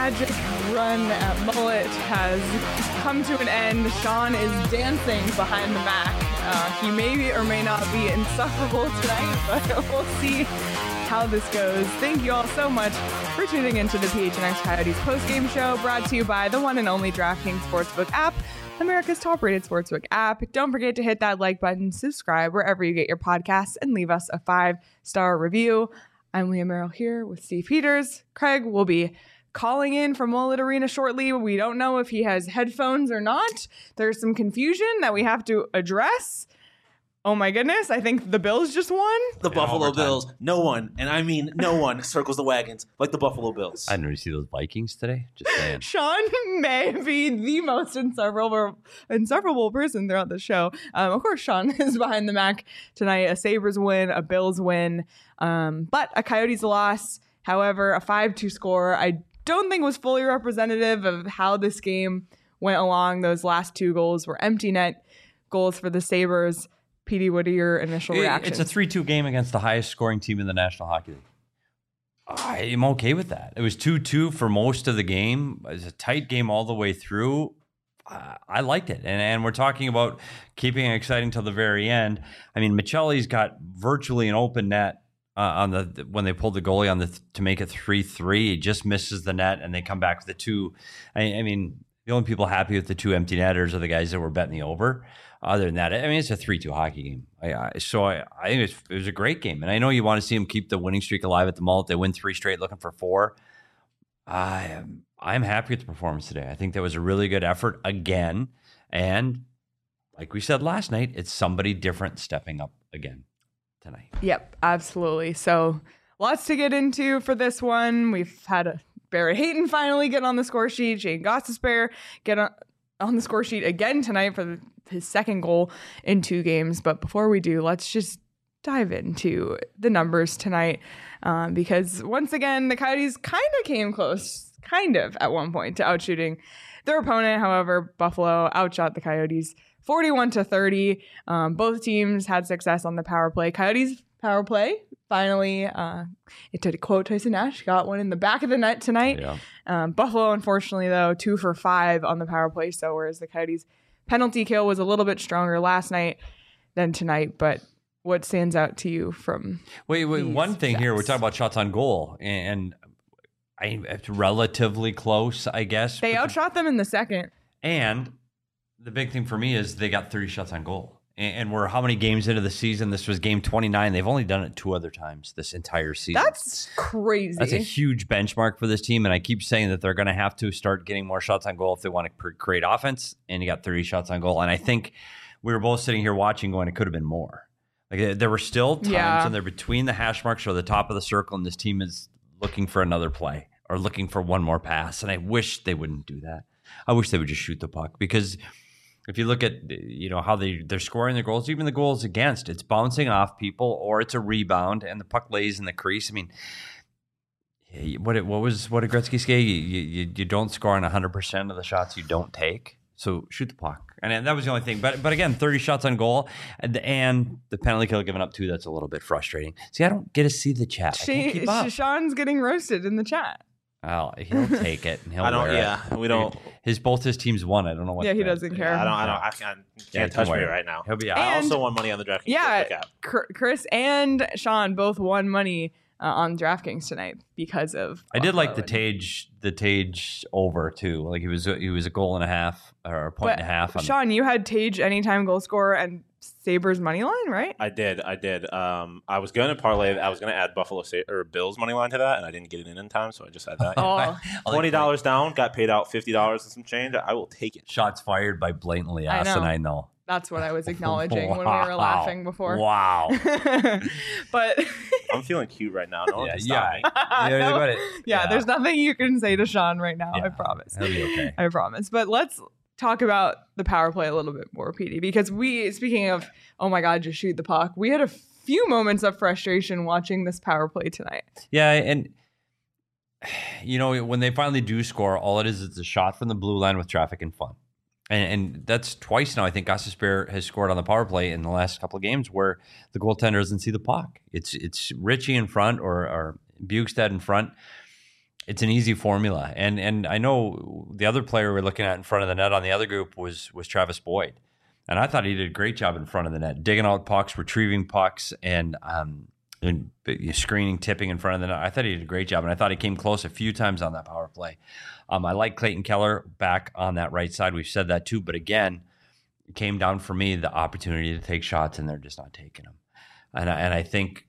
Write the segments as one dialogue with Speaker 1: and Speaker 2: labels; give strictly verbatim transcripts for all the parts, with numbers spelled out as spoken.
Speaker 1: magic run at Mullet has come to an end. Sean is dancing behind the Mac. Uh, he may or may not be insufferable tonight, but we'll see how this goes. Thank you all so much for tuning into the P H N X Coyotes postgame show, brought to you by the one and only DraftKings Sportsbook app, America's top-rated sportsbook app. Don't forget to hit that like button, subscribe wherever you get your podcasts, and leave us a five-star review. I'm Leah Merrill here with Steve Peters. Craig will be calling in from Mullet Arena shortly. We don't know if he has headphones or not. There's some confusion that we have to address. Oh my goodness, I think the Bills just won.
Speaker 2: The Buffalo Bills. No one, and I mean no one, circles the wagons like the Buffalo Bills.
Speaker 3: I didn't really see those Vikings today. Just saying.
Speaker 1: Sean may be the most insufferable, insufferable person throughout the show. Um, of course, Sean is behind the Mac tonight. A Sabres win, a Bills win, um, but a Coyotes loss. However, a five two score I don't think was fully representative of how this game went along. Those last two goals were empty net goals for the Sabres. P D, what are your initial reactions?
Speaker 3: It's a three two game against the highest scoring team in the National Hockey League. I'm okay with that. It was two two for most of the game. It was a tight game all the way through. Uh, I liked it. And and we're talking about keeping it exciting till the very end. I mean, Michelli's got virtually an open net uh, on the when they pulled the goalie on the th- to make it three three. He just misses the net, and they come back with the two. I, I mean, the only people happy with the two empty netters are the guys that were betting the over. Other than that, I mean, it's a three two hockey game. I, I, so I, I think it was, it was a great game. And I know you want to see them keep the winning streak alive at the Mullet. They win three straight, looking for four. I am, I'm happy with the performance today. I think that was a really good effort again. And like we said last night, it's somebody different stepping up again tonight.
Speaker 1: Yep, absolutely. So lots to get into for this one. We've had a Barrett Hayton finally get on the score sheet. Shane Gostisbehere get on, on the score sheet again tonight for the his second goal in two games. But before we do, let's just dive into the numbers tonight, um, because once again, the Coyotes kind of came close, kind of at one point, to outshooting their opponent. However, Buffalo outshot the Coyotes forty-one to thirty. Um, both teams had success on the power play. Coyotes power play finally, uh, to quote Tyson Nash, got one in the back of the net tonight.
Speaker 3: Yeah.
Speaker 1: Um, Buffalo, unfortunately, though, two for five on the power play. So whereas the Coyotes penalty kill was a little bit stronger last night than tonight. But what stands out to you from
Speaker 3: Wait, wait one thing
Speaker 1: stats?
Speaker 3: here. We're talking about shots on goal, and I, it's relatively close, I guess.
Speaker 1: They
Speaker 3: but
Speaker 1: outshot them in the second.
Speaker 3: And the big thing for me is they got thirty shots on goal. And, and we're how many games into the season? This was game twenty-nine. They've only done it two other times this entire season.
Speaker 1: That's crazy.
Speaker 3: That's a huge benchmark for this team. And I keep saying that they're going to have to start getting more shots on goal if they want to pr- create offense. And you got thirty shots on goal. And I think we were both sitting here watching going, it could have been more. Like there were still times
Speaker 1: yeah.
Speaker 3: and they're between the hash marks or the top of the circle. And this team is looking for another play or looking for one more pass. And I wish they wouldn't do that. I wish they would just shoot the puck, because if you look at, you know, how they, they're scoring their goals, even the goals against, it's bouncing off people or it's a rebound and the puck lays in the crease. I mean, what what was what did Gretzky say? You, you, you don't score on one hundred percent of the shots you don't take. So shoot the puck. And that was the only thing. But but again, thirty shots on goal and, and the penalty kill given up too, that's a little bit frustrating. See, I don't get to see the chat. I can't keep up.
Speaker 1: Sean's getting roasted in the chat.
Speaker 3: Well, he'll take it. And he'll
Speaker 2: I don't.
Speaker 3: wear
Speaker 2: Yeah,
Speaker 3: it.
Speaker 2: we don't.
Speaker 3: His both his teams won. I don't know what.
Speaker 1: Yeah, he
Speaker 3: the,
Speaker 1: doesn't care.
Speaker 2: Yeah, I don't. I don't. I can't. Can't
Speaker 3: Yeah,
Speaker 2: touch me
Speaker 3: worry.
Speaker 2: right now.
Speaker 3: He'll be out.
Speaker 2: I
Speaker 1: And-
Speaker 2: also won money on the DraftKings.
Speaker 1: Yeah,
Speaker 2: Sportsbook app.
Speaker 1: Cr- Chris and Sean both won money uh, on DraftKings tonight because of.
Speaker 3: I did like the
Speaker 1: Buffalo.
Speaker 3: Tage, the Tage over too. Like he was, he was a goal and a half or a point
Speaker 1: But
Speaker 3: and a half. On,
Speaker 1: Sean, you had Tage anytime goal scorer and Sabres money line, right?
Speaker 2: I did. I did. Um, I was going to parlay. I was going to add Buffalo Sa- or Bills money line to that, and I didn't get it in in time, so I just had that.
Speaker 1: Oh,
Speaker 3: I like
Speaker 2: Twenty dollars down, got paid out fifty dollars and some change. I will take it.
Speaker 3: shots fired by blatantly
Speaker 1: I know.
Speaker 3: asinine though.
Speaker 1: that's what I was acknowledging when we
Speaker 3: Wow.
Speaker 1: were laughing before.
Speaker 3: Wow.
Speaker 1: But
Speaker 2: I'm feeling cute right now. No one
Speaker 3: Yeah,
Speaker 2: can stop me.
Speaker 3: Yeah,
Speaker 1: No,
Speaker 3: about it.
Speaker 1: yeah, there's nothing you can say to Sean right now. I
Speaker 3: Yeah.
Speaker 1: promise.
Speaker 3: He'll be okay.
Speaker 1: I promise. But let's talk about the power play a little bit more, P D, because we, speaking of, oh my God, just shoot the puck, we had a few moments of frustration watching this power play tonight.
Speaker 3: Yeah, and you know when they finally do score, all it is is a shot from the blue line with traffic and fun. And, and that's twice now. I think Gostisbehere has scored on the power play in the last couple of games where the goaltender doesn't see the puck. It's it's Ritchie in front or, or Bukestad in front. it's an easy formula. And and I know the other player we're looking at in front of the net on the other group was was Travis Boyd. And I thought he did a great job in front of the net, digging out pucks, retrieving pucks, and um, and screening, tipping in front of the net. I thought he did a great job, and I thought he came close a few times on that power play. Um, I like Clayton Keller back on that right side. We've said that too, but again, it came down for me the opportunity to take shots, and they're just not taking them. And I, and I think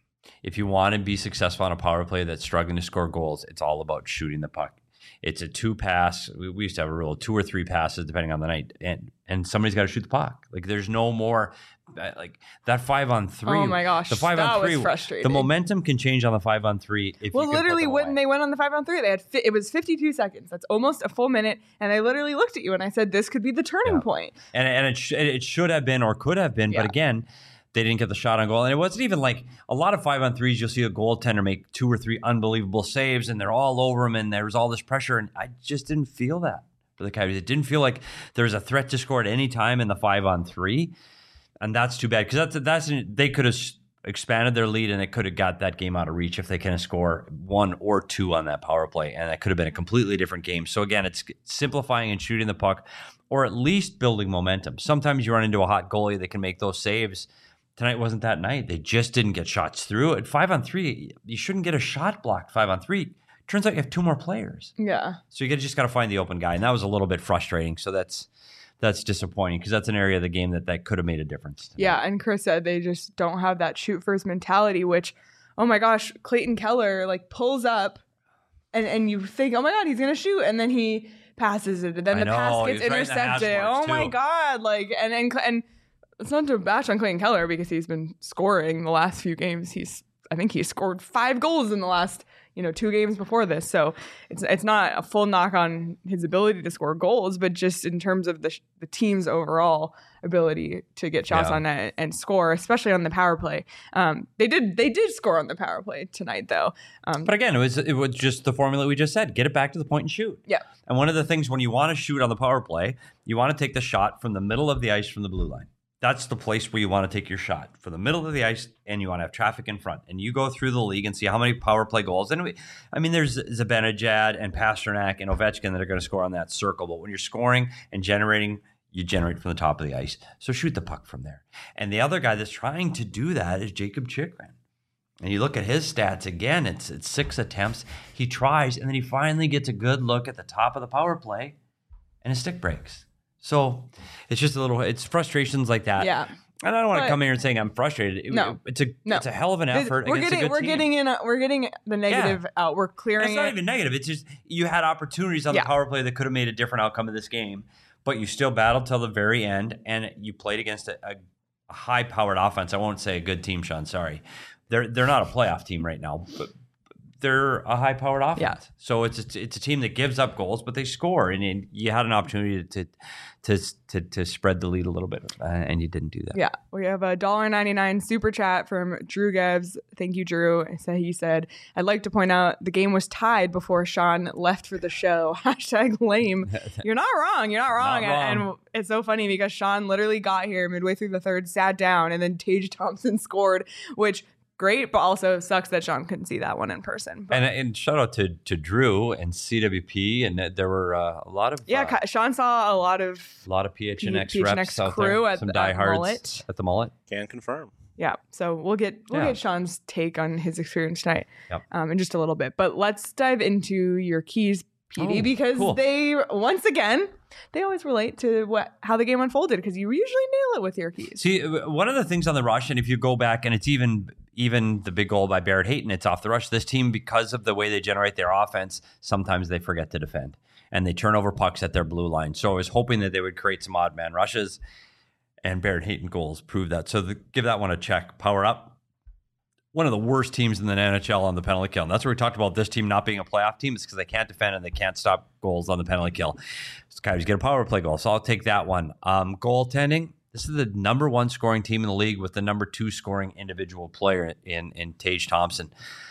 Speaker 3: if you want to be successful on a power play that's struggling to score goals, it's all about shooting the puck. It's a two pass. We, we used to have a rule, two or three passes depending on the night, and and somebody's got to shoot the puck. Like there's no more, like that five on three.
Speaker 1: Oh my gosh,
Speaker 3: the five
Speaker 1: that
Speaker 3: on three.
Speaker 1: was frustrating.
Speaker 3: The momentum can change on the five on three. If
Speaker 1: well,
Speaker 3: you can
Speaker 1: literally,
Speaker 3: put them
Speaker 1: when
Speaker 3: away.
Speaker 1: they went on the five on three, they had fi- it was fifty-two seconds. That's almost a full minute, and I literally looked at you and I said, "This could be the turning
Speaker 3: Yeah.
Speaker 1: point."
Speaker 3: and and it sh- it should have been or could have been,
Speaker 1: Yeah.
Speaker 3: but again. They didn't get the shot on goal. And it wasn't even like a lot of five on threes. You'll see a goaltender make two or three unbelievable saves and they're all over him and there's all this pressure. And I just didn't feel that for the Coyotes. It didn't feel like there was a threat to score at any time in the five on three. And that's too bad because that's, that's, they could have expanded their lead and it could have got that game out of reach if they can score one or two on that power play. And that could have been a completely different game. So again, it's simplifying and shooting the puck or at least building momentum. Sometimes you run into a hot goalie that can make those saves. Tonight wasn't that night. They just didn't get shots through. At five on three, you shouldn't get a shot blocked five on three. Turns out you have two more players.
Speaker 1: Yeah.
Speaker 3: So you just got to find the open guy. And that was a little bit frustrating. So that's that's disappointing because that's an area of the game that, that could have made a difference. tonight.
Speaker 1: Yeah, and Chris said they just don't have that shoot first mentality, which, oh my gosh, Clayton Keller like pulls up and, and you think, oh my God, he's going to shoot. And then he passes it. And then
Speaker 3: I
Speaker 1: the
Speaker 3: know,
Speaker 1: pass
Speaker 3: he
Speaker 1: gets
Speaker 3: was right in the hash
Speaker 1: intercepted.
Speaker 3: marks,
Speaker 1: Oh my
Speaker 3: too.
Speaker 1: God. Like, and, and, and it's not to bash on Clayton Keller because he's been scoring the last few games. He's, I think he scored five goals in the last, you know, two games before this. So it's it's not a full knock on his ability to score goals, but just in terms of the the team's overall ability to get shots
Speaker 3: Yeah.
Speaker 1: on net and score, especially on the power play. Um, they did they did score on the power play tonight, though. Um,
Speaker 3: But again, it was it was just the formula we just said. Get it back to the point and shoot.
Speaker 1: yeah,
Speaker 3: And one of the things when you want to shoot on the power play, you want to take the shot from the middle of the ice from the blue line. That's the place where you want to take your shot, from the middle of the ice, and you want to have traffic in front. And you go through the league and see how many power play goals. And we, I mean, there's Zibanejad and Pasternak and Ovechkin that are going to score on that circle. But when you're scoring and generating, you generate from the top of the ice. So shoot the puck from there. And the other guy that's trying to do that is Jacob Chychrun. And you look at his stats again, it's it's six attempts. He tries, and then he finally gets a good look at the top of the power play, and his stick breaks. So it's just a little, it's frustrations like that.
Speaker 1: yeah.
Speaker 3: And I don't want
Speaker 1: But-
Speaker 3: to come here and saying I'm frustrated. It-
Speaker 1: No.
Speaker 3: it's a
Speaker 1: No.
Speaker 3: it's a hell of an effort.
Speaker 1: We're
Speaker 3: against
Speaker 1: getting
Speaker 3: a good
Speaker 1: we're
Speaker 3: team.
Speaker 1: getting in a, we're getting the negative out. We're
Speaker 3: And
Speaker 1: clearing
Speaker 3: it's not
Speaker 1: it.
Speaker 3: even negative. It's just you had opportunities on
Speaker 1: Yeah.
Speaker 3: the power play that could have made a different outcome of this game, but you still battled till the very end, and you played against a, a, a high-powered offense. I won't say a good team, Sean. Sorry, they're they're not a playoff team right now, but they're a high-powered offense.
Speaker 1: Yeah.
Speaker 3: So it's a, it's a team that gives up goals, but they score, and, and you had an opportunity to to to to spread the lead a little bit, uh, and you didn't do that.
Speaker 1: Yeah, we have a one dollar ninety-nine super chat from Drew Gebs. Thank you, Drew. So he said, I'd like to point out the game was tied before Sean left for the show. Hashtag lame. You're not wrong. You're not wrong.
Speaker 3: Not
Speaker 1: And,
Speaker 3: wrong.
Speaker 1: and it's so funny because Sean literally got here midway through the third, sat down, and then Tage Thompson scored, which great, but also sucks that Sean couldn't see that one in person. But
Speaker 3: And and shout out to to Drew and C W P, and uh, there were uh, a lot of
Speaker 1: yeah,
Speaker 3: uh,
Speaker 1: Ka- Sean saw a lot of
Speaker 3: a lot of P H N X
Speaker 1: P H N
Speaker 3: reps
Speaker 1: X
Speaker 3: out
Speaker 1: crew
Speaker 3: there,
Speaker 1: at
Speaker 3: some
Speaker 1: the- at
Speaker 3: diehards
Speaker 1: Mullet.
Speaker 3: at the Mullet.
Speaker 2: Can confirm.
Speaker 1: Yeah, so we'll get we'll
Speaker 3: Yeah.
Speaker 1: get Sean's take on his experience tonight
Speaker 3: Yep.
Speaker 1: um, in just a little bit. But let's dive into your keys, P D,
Speaker 3: Oh,
Speaker 1: because
Speaker 3: cool.
Speaker 1: they once again they always relate to what how the game unfolded because you usually nail it with your keys.
Speaker 3: See, uh, one of the things on the rush, and if you go back, and it's even even the big goal by Barrett Hayton, it's off the rush. This team, because of the way they generate their offense, sometimes they forget to defend, and they turn over pucks at their blue line. So I was hoping that they would create some odd man rushes, and Barrett Hayton goals prove that. So the, give that one a check. Power up. One of the worst teams in the N H L on the penalty kill. And that's where we talked about this team not being a playoff team. It's because they can't defend and they can't stop goals on the penalty kill. So Coyotes get a power play goal. So I'll take that one. Um, goaltending. This is the number one scoring team in the league with the number two scoring individual player in, in Tage Thompson.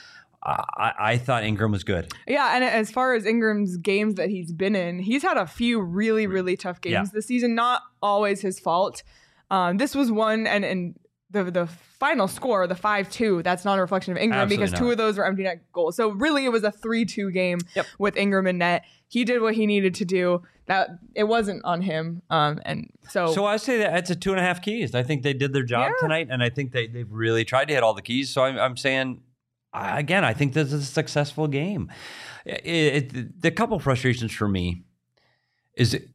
Speaker 3: I, I thought Ingram was good.
Speaker 1: Yeah, and as far as Ingram's games that he's been in, he's had a few really really tough games
Speaker 3: Yeah.
Speaker 1: this season. Not always his fault. Um, this was one, and and the the final score, the five two, that's not a reflection of Ingram
Speaker 3: Absolutely
Speaker 1: because two
Speaker 3: not.
Speaker 1: of those were empty net goals. So really it was a three two game
Speaker 3: Yep.
Speaker 1: with Ingram in net. He did what he needed to do. That it wasn't on him. Um, and so
Speaker 3: So I say that it's a two and a half keys. I think they did their job
Speaker 1: Yeah.
Speaker 3: tonight, and I think they they've really tried to hit all the keys. So I'm, I'm saying, I, again, I think this is a successful game. It, it, the couple frustrations for me is, it,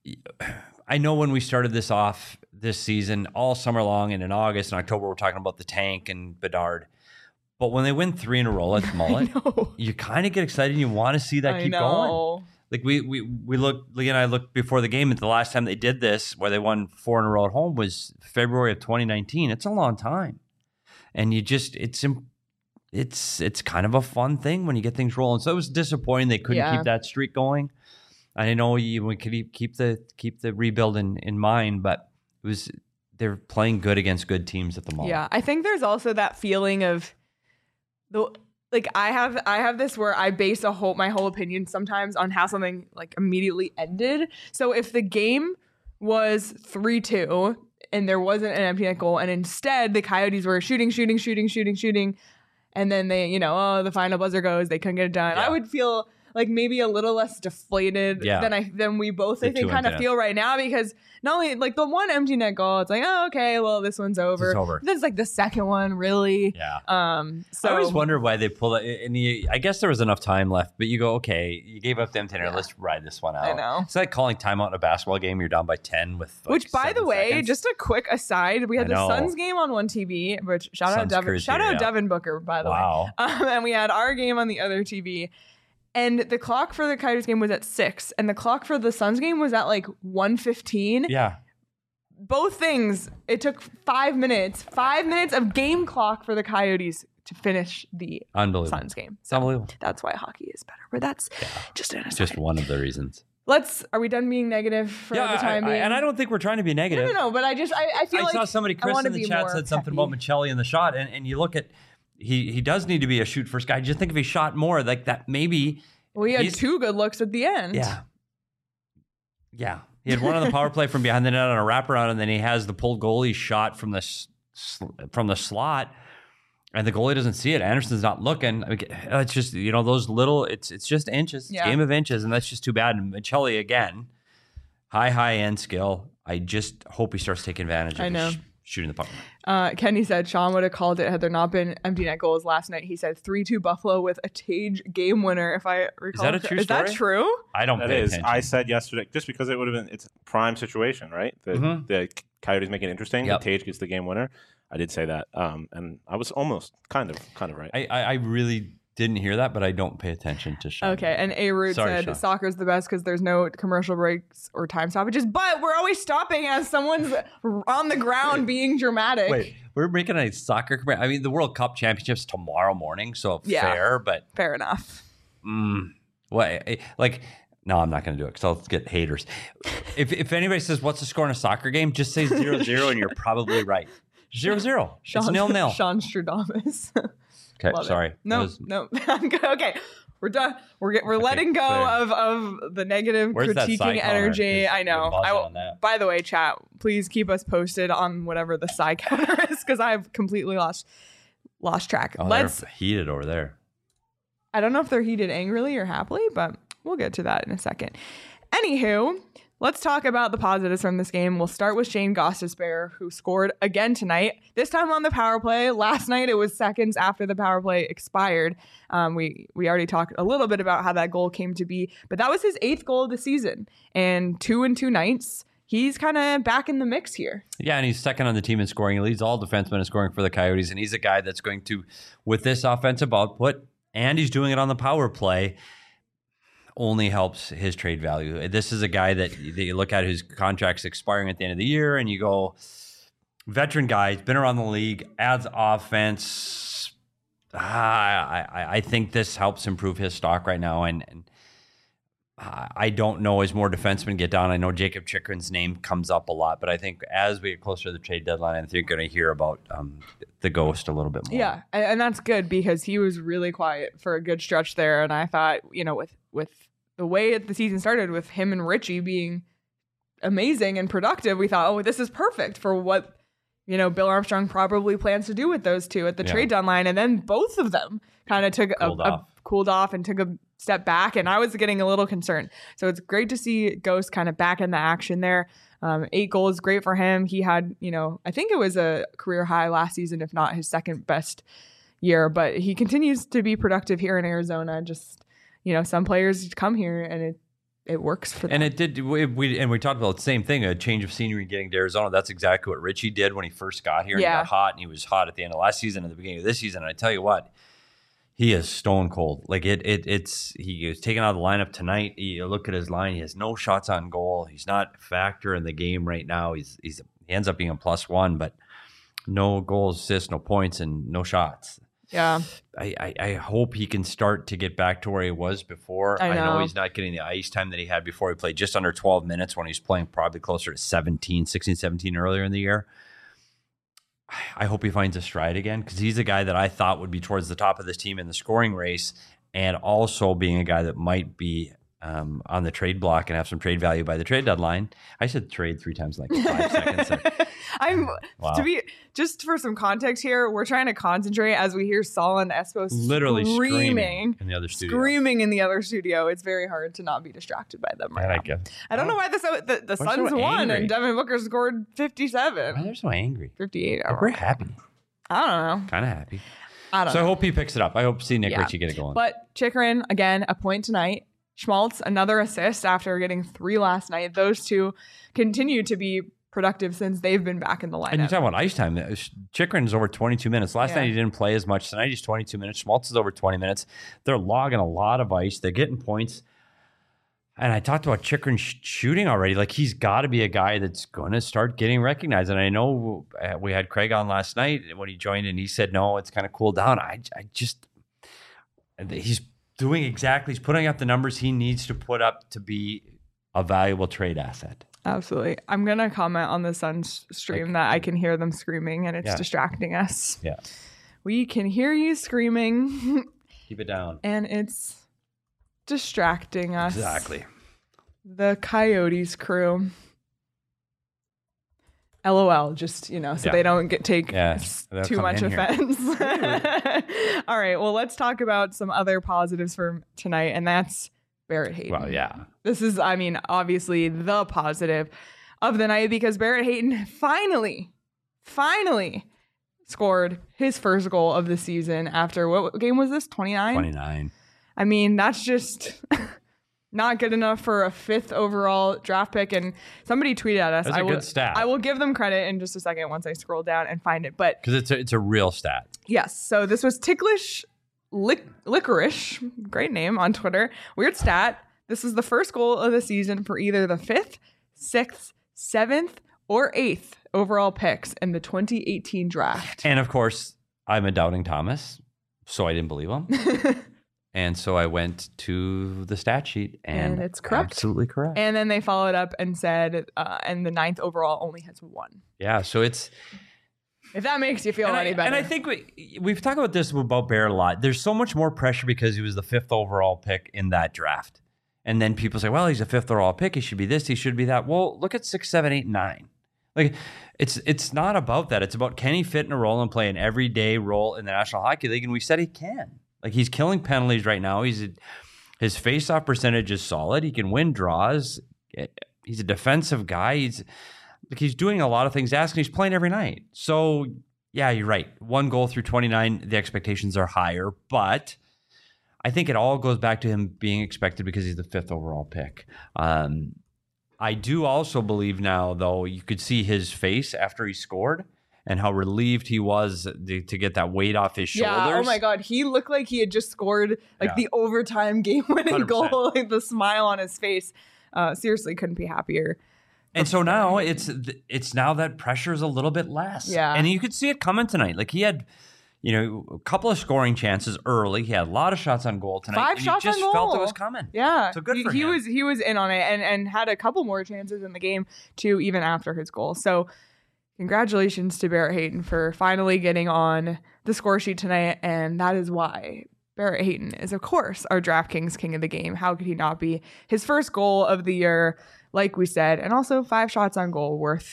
Speaker 3: I know when we started this off this season, all summer long, and in August and October, we're talking about the tank and Bedard. But when they win three in a row at Mullet,
Speaker 1: no.
Speaker 3: you kind of get excited and you want to see that
Speaker 1: I
Speaker 3: keep
Speaker 1: know.
Speaker 3: going. Like we we we looked, Lee and I looked before the game at the last time they did this, where they won four in a row at home, was February of twenty nineteen. It's a long time, and you just it's im- it's it's kind of a fun thing when you get things rolling. So it was disappointing they couldn't
Speaker 1: Yeah.
Speaker 3: keep that streak going. I know you we could keep keep the keep the rebuild in, in mind, but it was they're playing good against good teams at the moment.
Speaker 1: Yeah, I think there's also that feeling of the like I have I have this where I base a whole my whole opinion sometimes on how something like immediately ended. So if the game was three two and there wasn't an empty net goal, and instead the Coyotes were shooting, shooting, shooting, shooting, shooting, and then they, you know, oh, the final buzzer goes, they couldn't get it done.
Speaker 3: Yeah.
Speaker 1: I would feel like maybe a little less deflated
Speaker 3: Yeah.
Speaker 1: than I than we both
Speaker 3: The
Speaker 1: I think
Speaker 3: two
Speaker 1: kind of
Speaker 3: empty
Speaker 1: feel right now, because not only like the one empty net goal, it's like, oh, okay, well, this one's over.
Speaker 3: It's over.
Speaker 1: Then it's like the second one, really.
Speaker 3: Yeah.
Speaker 1: Um. So
Speaker 3: I always wonder why they pull it. And you, I guess there was enough time left, but you go, okay, you gave up the empty net.
Speaker 1: Yeah.
Speaker 3: Let's ride this one out.
Speaker 1: I know.
Speaker 3: It's like calling timeout in a basketball game. You're down by ten with like
Speaker 1: Which, by the
Speaker 3: seven
Speaker 1: way,
Speaker 3: seconds.
Speaker 1: just a quick aside, we had
Speaker 3: I
Speaker 1: the
Speaker 3: know.
Speaker 1: Suns game on one T V, which shout out
Speaker 3: Suns
Speaker 1: Devin,
Speaker 3: crews
Speaker 1: shout
Speaker 3: here,
Speaker 1: out
Speaker 3: yeah.
Speaker 1: Devin Booker, by the
Speaker 3: Wow.
Speaker 1: way. Um, and we had our game on the other T V. And the clock for the Coyotes game was at six, and the clock for the Suns game was at like one fifteen.
Speaker 3: Yeah.
Speaker 1: Both things, it took five minutes, five minutes of game clock for the Coyotes to finish the
Speaker 3: Unbelievable.
Speaker 1: Suns game.
Speaker 3: It's unbelievable.
Speaker 1: That's why hockey is better. But that's just an aside.
Speaker 3: Just one of the reasons.
Speaker 1: Let's. Are we done being negative for
Speaker 3: yeah,
Speaker 1: the time
Speaker 3: I- I-
Speaker 1: being?
Speaker 3: and I don't think we're trying to be negative.
Speaker 1: No, no, no. But I just, I, I feel
Speaker 3: I
Speaker 1: like
Speaker 3: saw somebody,
Speaker 1: I
Speaker 3: Chris
Speaker 1: wanna
Speaker 3: in the
Speaker 1: be
Speaker 3: chat
Speaker 1: more
Speaker 3: said something
Speaker 1: peppy.
Speaker 3: about Michelli in the shot, and, and you look at he he does need to be a shoot first guy. Just think if he shot more, like that, maybe.
Speaker 1: Well, he had
Speaker 3: he's-
Speaker 1: two good looks at the end.
Speaker 3: Yeah. Yeah. He had one on the power play from behind the net on a wraparound, and then he has the pulled goalie shot from the s- sl- from the slot, and the goalie doesn't see it. Anderson's not looking. I mean, it's just, you know, those little. It's it's just inches. It's
Speaker 1: Yeah.
Speaker 3: a game of inches, and that's just too bad. And Michelli again, high high end skill. I just hope he starts taking advantage of
Speaker 1: I know.
Speaker 3: sh- shooting the puck.
Speaker 1: Uh, Kenny said Sean would have called it had there not been empty net goals last night. He said three two Buffalo with a Tage game winner, if I recall.
Speaker 3: that a
Speaker 1: cor-
Speaker 3: true
Speaker 1: Is that
Speaker 3: story?
Speaker 1: true?
Speaker 3: I don't
Speaker 2: That
Speaker 3: pay
Speaker 2: is.
Speaker 3: attention.
Speaker 2: I said yesterday, just because it would have been, it's a prime situation, right? The,
Speaker 3: Mhm.
Speaker 2: the Coyotes make it interesting.
Speaker 3: Yep.
Speaker 2: The Tage gets the game winner. I did say that, um, and I was almost kind of, kind of right.
Speaker 3: I, I, I really didn't hear that, but I don't pay attention to Sean.
Speaker 1: Okay, and A Root
Speaker 3: Sorry,
Speaker 1: said
Speaker 3: Sean.
Speaker 1: soccer's the best because there's no commercial breaks or time stoppages, but we're always stopping as someone's on the ground being dramatic.
Speaker 3: Wait, we're making a soccer. compar- I mean, the World Cup Championships tomorrow morning, so
Speaker 1: Yeah.
Speaker 3: fair, but
Speaker 1: Fair enough.
Speaker 3: mm, what? eh, Like, no, I'm not going to do it because I'll get haters. If if anybody says what's the score in a soccer game, just say zero zero, and you're probably right. Zero zero. It's
Speaker 1: Sean,
Speaker 3: nil nil.
Speaker 1: Sean Stradamus.
Speaker 3: Okay,
Speaker 1: Love it.
Speaker 3: sorry.
Speaker 1: No,
Speaker 3: That was-
Speaker 1: no. I'm good. Okay, we're done. We're get, we're
Speaker 3: Okay,
Speaker 1: letting go
Speaker 3: clear.
Speaker 1: of, of the negative
Speaker 3: Where's that
Speaker 1: critiquing
Speaker 3: side counter?
Speaker 1: energy.
Speaker 3: 'Cause
Speaker 1: I know.
Speaker 3: we're buzzing
Speaker 1: I,
Speaker 3: on that.
Speaker 1: by the way, chat, please keep us posted on whatever the side counter is because I've completely lost lost track.
Speaker 3: Oh,
Speaker 1: Let's.
Speaker 3: they're heated over there.
Speaker 1: I don't know if they're heated angrily or happily, but we'll get to that in a second. Anywho, let's talk about the positives from this game. We'll start with Shane Gostisbehere, who scored again tonight, this time on the power play. Last night, it was seconds after the power play expired. Um, we, we already talked a little bit about how that goal came to be, but that was his eighth goal of the season. And two and two nights, he's kind of back in the mix here.
Speaker 3: Yeah, and he's second on the team in scoring. He leads all defensemen in scoring for the Coyotes, and he's a guy that's going to, with this offensive output, and he's doing it on the power play, only helps his trade value. This is a guy that, that you look at whose contract's expiring at the end of the year, and you go, veteran guy, he's been around the league, adds offense. Ah, I, I, I think this helps improve his stock right now, and, and I don't know as more defensemen get down. I know Jacob Chikrin's name comes up a lot, but I think as we get closer to the trade deadline, I think you're going to hear about um, the Ghost a little bit more.
Speaker 1: Yeah, and, and that's good because he was really quiet for a good stretch there. And I thought, you know, with with the way the season started, with him and Richie being amazing and productive, we thought, oh, this is perfect for what you know, Bill Armstrong probably plans to do with those two at the
Speaker 3: Yeah.
Speaker 1: trade deadline. And then both of them kind of took
Speaker 3: Cooled
Speaker 1: a,
Speaker 3: off.
Speaker 1: a cooled off and took a step back. And I was getting a little concerned. So it's great to see Ghost kind of back in the action there. Um, eight goals, great for him. He had, you know, I think it was a career high last season, if not his second best year. But he continues to be productive here in Arizona. Just, you know, some players come here and it it works for them.
Speaker 3: And it did. We, we and we talked about the same thing. A change of scenery getting to Arizona. That's exactly what Richie did when he first got here. And
Speaker 1: Yeah.
Speaker 3: he got hot, and he was hot at the end of last season and the beginning of this season. And I tell you what, he is stone cold. Like it, it it's he was taken out of the lineup tonight. You look at his line; he has no shots on goal. He's not a factor in the game right now. He's he's he ends up being a plus one, but no goals, assists, no points, and no shots.
Speaker 1: Yeah.
Speaker 3: I, I, I hope he can start to get back to where he was before.
Speaker 1: I
Speaker 3: I know.
Speaker 1: know.
Speaker 3: he's not getting the ice time that he had before. He played just under twelve minutes when he was playing probably closer to seventeen, sixteen, seventeen earlier in the year. I hope he finds a stride again because he's a guy that I thought would be towards the top of this team in the scoring race and also being a guy that might be um, on the trade block and have some trade value by the trade deadline. I said trade three times in like five seconds. There.
Speaker 1: I'm
Speaker 3: Wow.
Speaker 1: to be just for some context here. We're trying to concentrate as we hear Saul and Espo
Speaker 3: Literally
Speaker 1: screaming,
Speaker 3: screaming in the other studio.
Speaker 1: screaming in the other studio. It's very hard to not be distracted by them right
Speaker 3: I
Speaker 1: now.
Speaker 3: like it.
Speaker 1: I don't know why the so- the, the
Speaker 3: so
Speaker 1: Suns won
Speaker 3: angry?
Speaker 1: and Devin Booker scored
Speaker 3: Why
Speaker 1: fifty-seven,
Speaker 3: they're so angry?
Speaker 1: fifty-eight. I
Speaker 3: Like,
Speaker 1: don't
Speaker 3: we're
Speaker 1: know.
Speaker 3: happy.
Speaker 1: I don't know.
Speaker 3: Kind of happy.
Speaker 1: I don't
Speaker 3: So I
Speaker 1: know.
Speaker 3: hope he picks it up. I hope to see Nick
Speaker 1: Yeah.
Speaker 3: Ritchie get it going.
Speaker 1: But Chikrin, again, a point tonight. Schmaltz, another assist after getting three last night. Those two continue to be productive since they've been back in the
Speaker 3: and you
Speaker 1: lineup.
Speaker 3: talk about ice time. Chikrin's over twenty-two minutes. Last
Speaker 1: Yeah.
Speaker 3: night he didn't play as much. Tonight he's twenty-two minutes. Schmaltz is over twenty minutes. They're logging a lot of ice. They're getting points. And I talked about Chikrin sh- shooting already. Like he's got to be a guy that's going to start getting recognized. And I know uh, we had Craig on last night when he joined, and he said no, it's kind of cooled down. I, I just he's doing exactly. He's putting up the numbers he needs to put up to be a valuable trade asset.
Speaker 1: Absolutely. I'm going to comment on the Suns stream that I can hear them screaming and it's
Speaker 3: Yeah.
Speaker 1: distracting us.
Speaker 3: Yeah,
Speaker 1: We can hear you screaming
Speaker 3: keep it down.
Speaker 1: and it's distracting us.
Speaker 3: Exactly.
Speaker 1: The Coyotes crew. LOL, just, you know, so
Speaker 3: Yeah.
Speaker 1: they don't get take
Speaker 3: Yeah,
Speaker 1: s-
Speaker 3: they'll
Speaker 1: too
Speaker 3: come
Speaker 1: much
Speaker 3: in here.
Speaker 1: offense. All right, well, let's talk about some other positives for tonight, and that's Barrett Hayton.
Speaker 3: Well, yeah.
Speaker 1: This is, I mean, obviously the positive of the night because Barrett Hayton finally, finally scored his first goal of the season after what game was this? twenty-nine?
Speaker 3: twenty-nine.
Speaker 1: I mean, that's just not good enough for a fifth overall draft pick. And somebody tweeted at us.
Speaker 3: That's a
Speaker 1: I will,
Speaker 3: good stat.
Speaker 1: I will give them credit in just a second once I scroll down and find it. But
Speaker 3: Because it's a, it's a real stat.
Speaker 1: yes, so this was Ticklish Lic- Licorice, great name on Twitter. Weird stat. This is the first goal of the season for either the fifth, sixth, seventh, or eighth overall picks in the twenty eighteen draft.
Speaker 3: And of course, I'm a doubting Thomas, so I didn't believe him. And so I went to the stat sheet, and,
Speaker 1: And it's correct.
Speaker 3: Absolutely correct.
Speaker 1: And then they followed up and said, uh, and the ninth overall only has one.
Speaker 3: yeah, so it's
Speaker 1: If that makes you feel
Speaker 3: and
Speaker 1: any
Speaker 3: I,
Speaker 1: better.
Speaker 3: and I think we we've talked about this about Barrett a lot. There's so much more pressure because he was the fifth overall pick in that draft, and then people say, "Well, he's a fifth overall pick. He should be this. He should be that." Well, look at six, seven, eight, nine. Like it's it's not about that. It's about can he fit in a role and play an everyday role in the National Hockey League, and we said he can. Like he's killing penalties right now. He's a, his faceoff percentage is solid. He can win draws. He's a defensive guy. He's like he's doing a lot of things asked, and he's playing every night. So yeah, you're right. One goal through twenty-nine, the expectations are higher, but I think it all goes back to him being expected because he's the fifth overall pick. Um, I do also believe now, though, you could see his face after he scored and how relieved he was to, to get that weight off his shoulders.
Speaker 1: yeah, oh my God. He looked like he had just scored like
Speaker 3: Yeah.
Speaker 1: the overtime game winning
Speaker 3: one hundred percent.
Speaker 1: goal, like the smile on his face. Uh, seriously, couldn't be happier.
Speaker 3: And so now it's it's now that pressure is a little bit less.
Speaker 1: Yeah.
Speaker 3: And you could see it coming tonight. Like he had, you know, a couple of scoring chances early. He had a lot of shots on goal tonight.
Speaker 1: Five
Speaker 3: and
Speaker 1: shots
Speaker 3: you just
Speaker 1: on
Speaker 3: felt
Speaker 1: goal.
Speaker 3: it was coming.
Speaker 1: Yeah.
Speaker 3: So good
Speaker 1: he,
Speaker 3: for
Speaker 1: he
Speaker 3: him.
Speaker 1: was he was in on it and, and had a couple more chances in the game too, even after his goal. So congratulations to Barrett Hayton for finally getting on the score sheet tonight. And that is why Barrett Hayton is, of course, our DraftKings king of the game. How could he not be? His first goal of the year, like we said, and also five shots on goal worth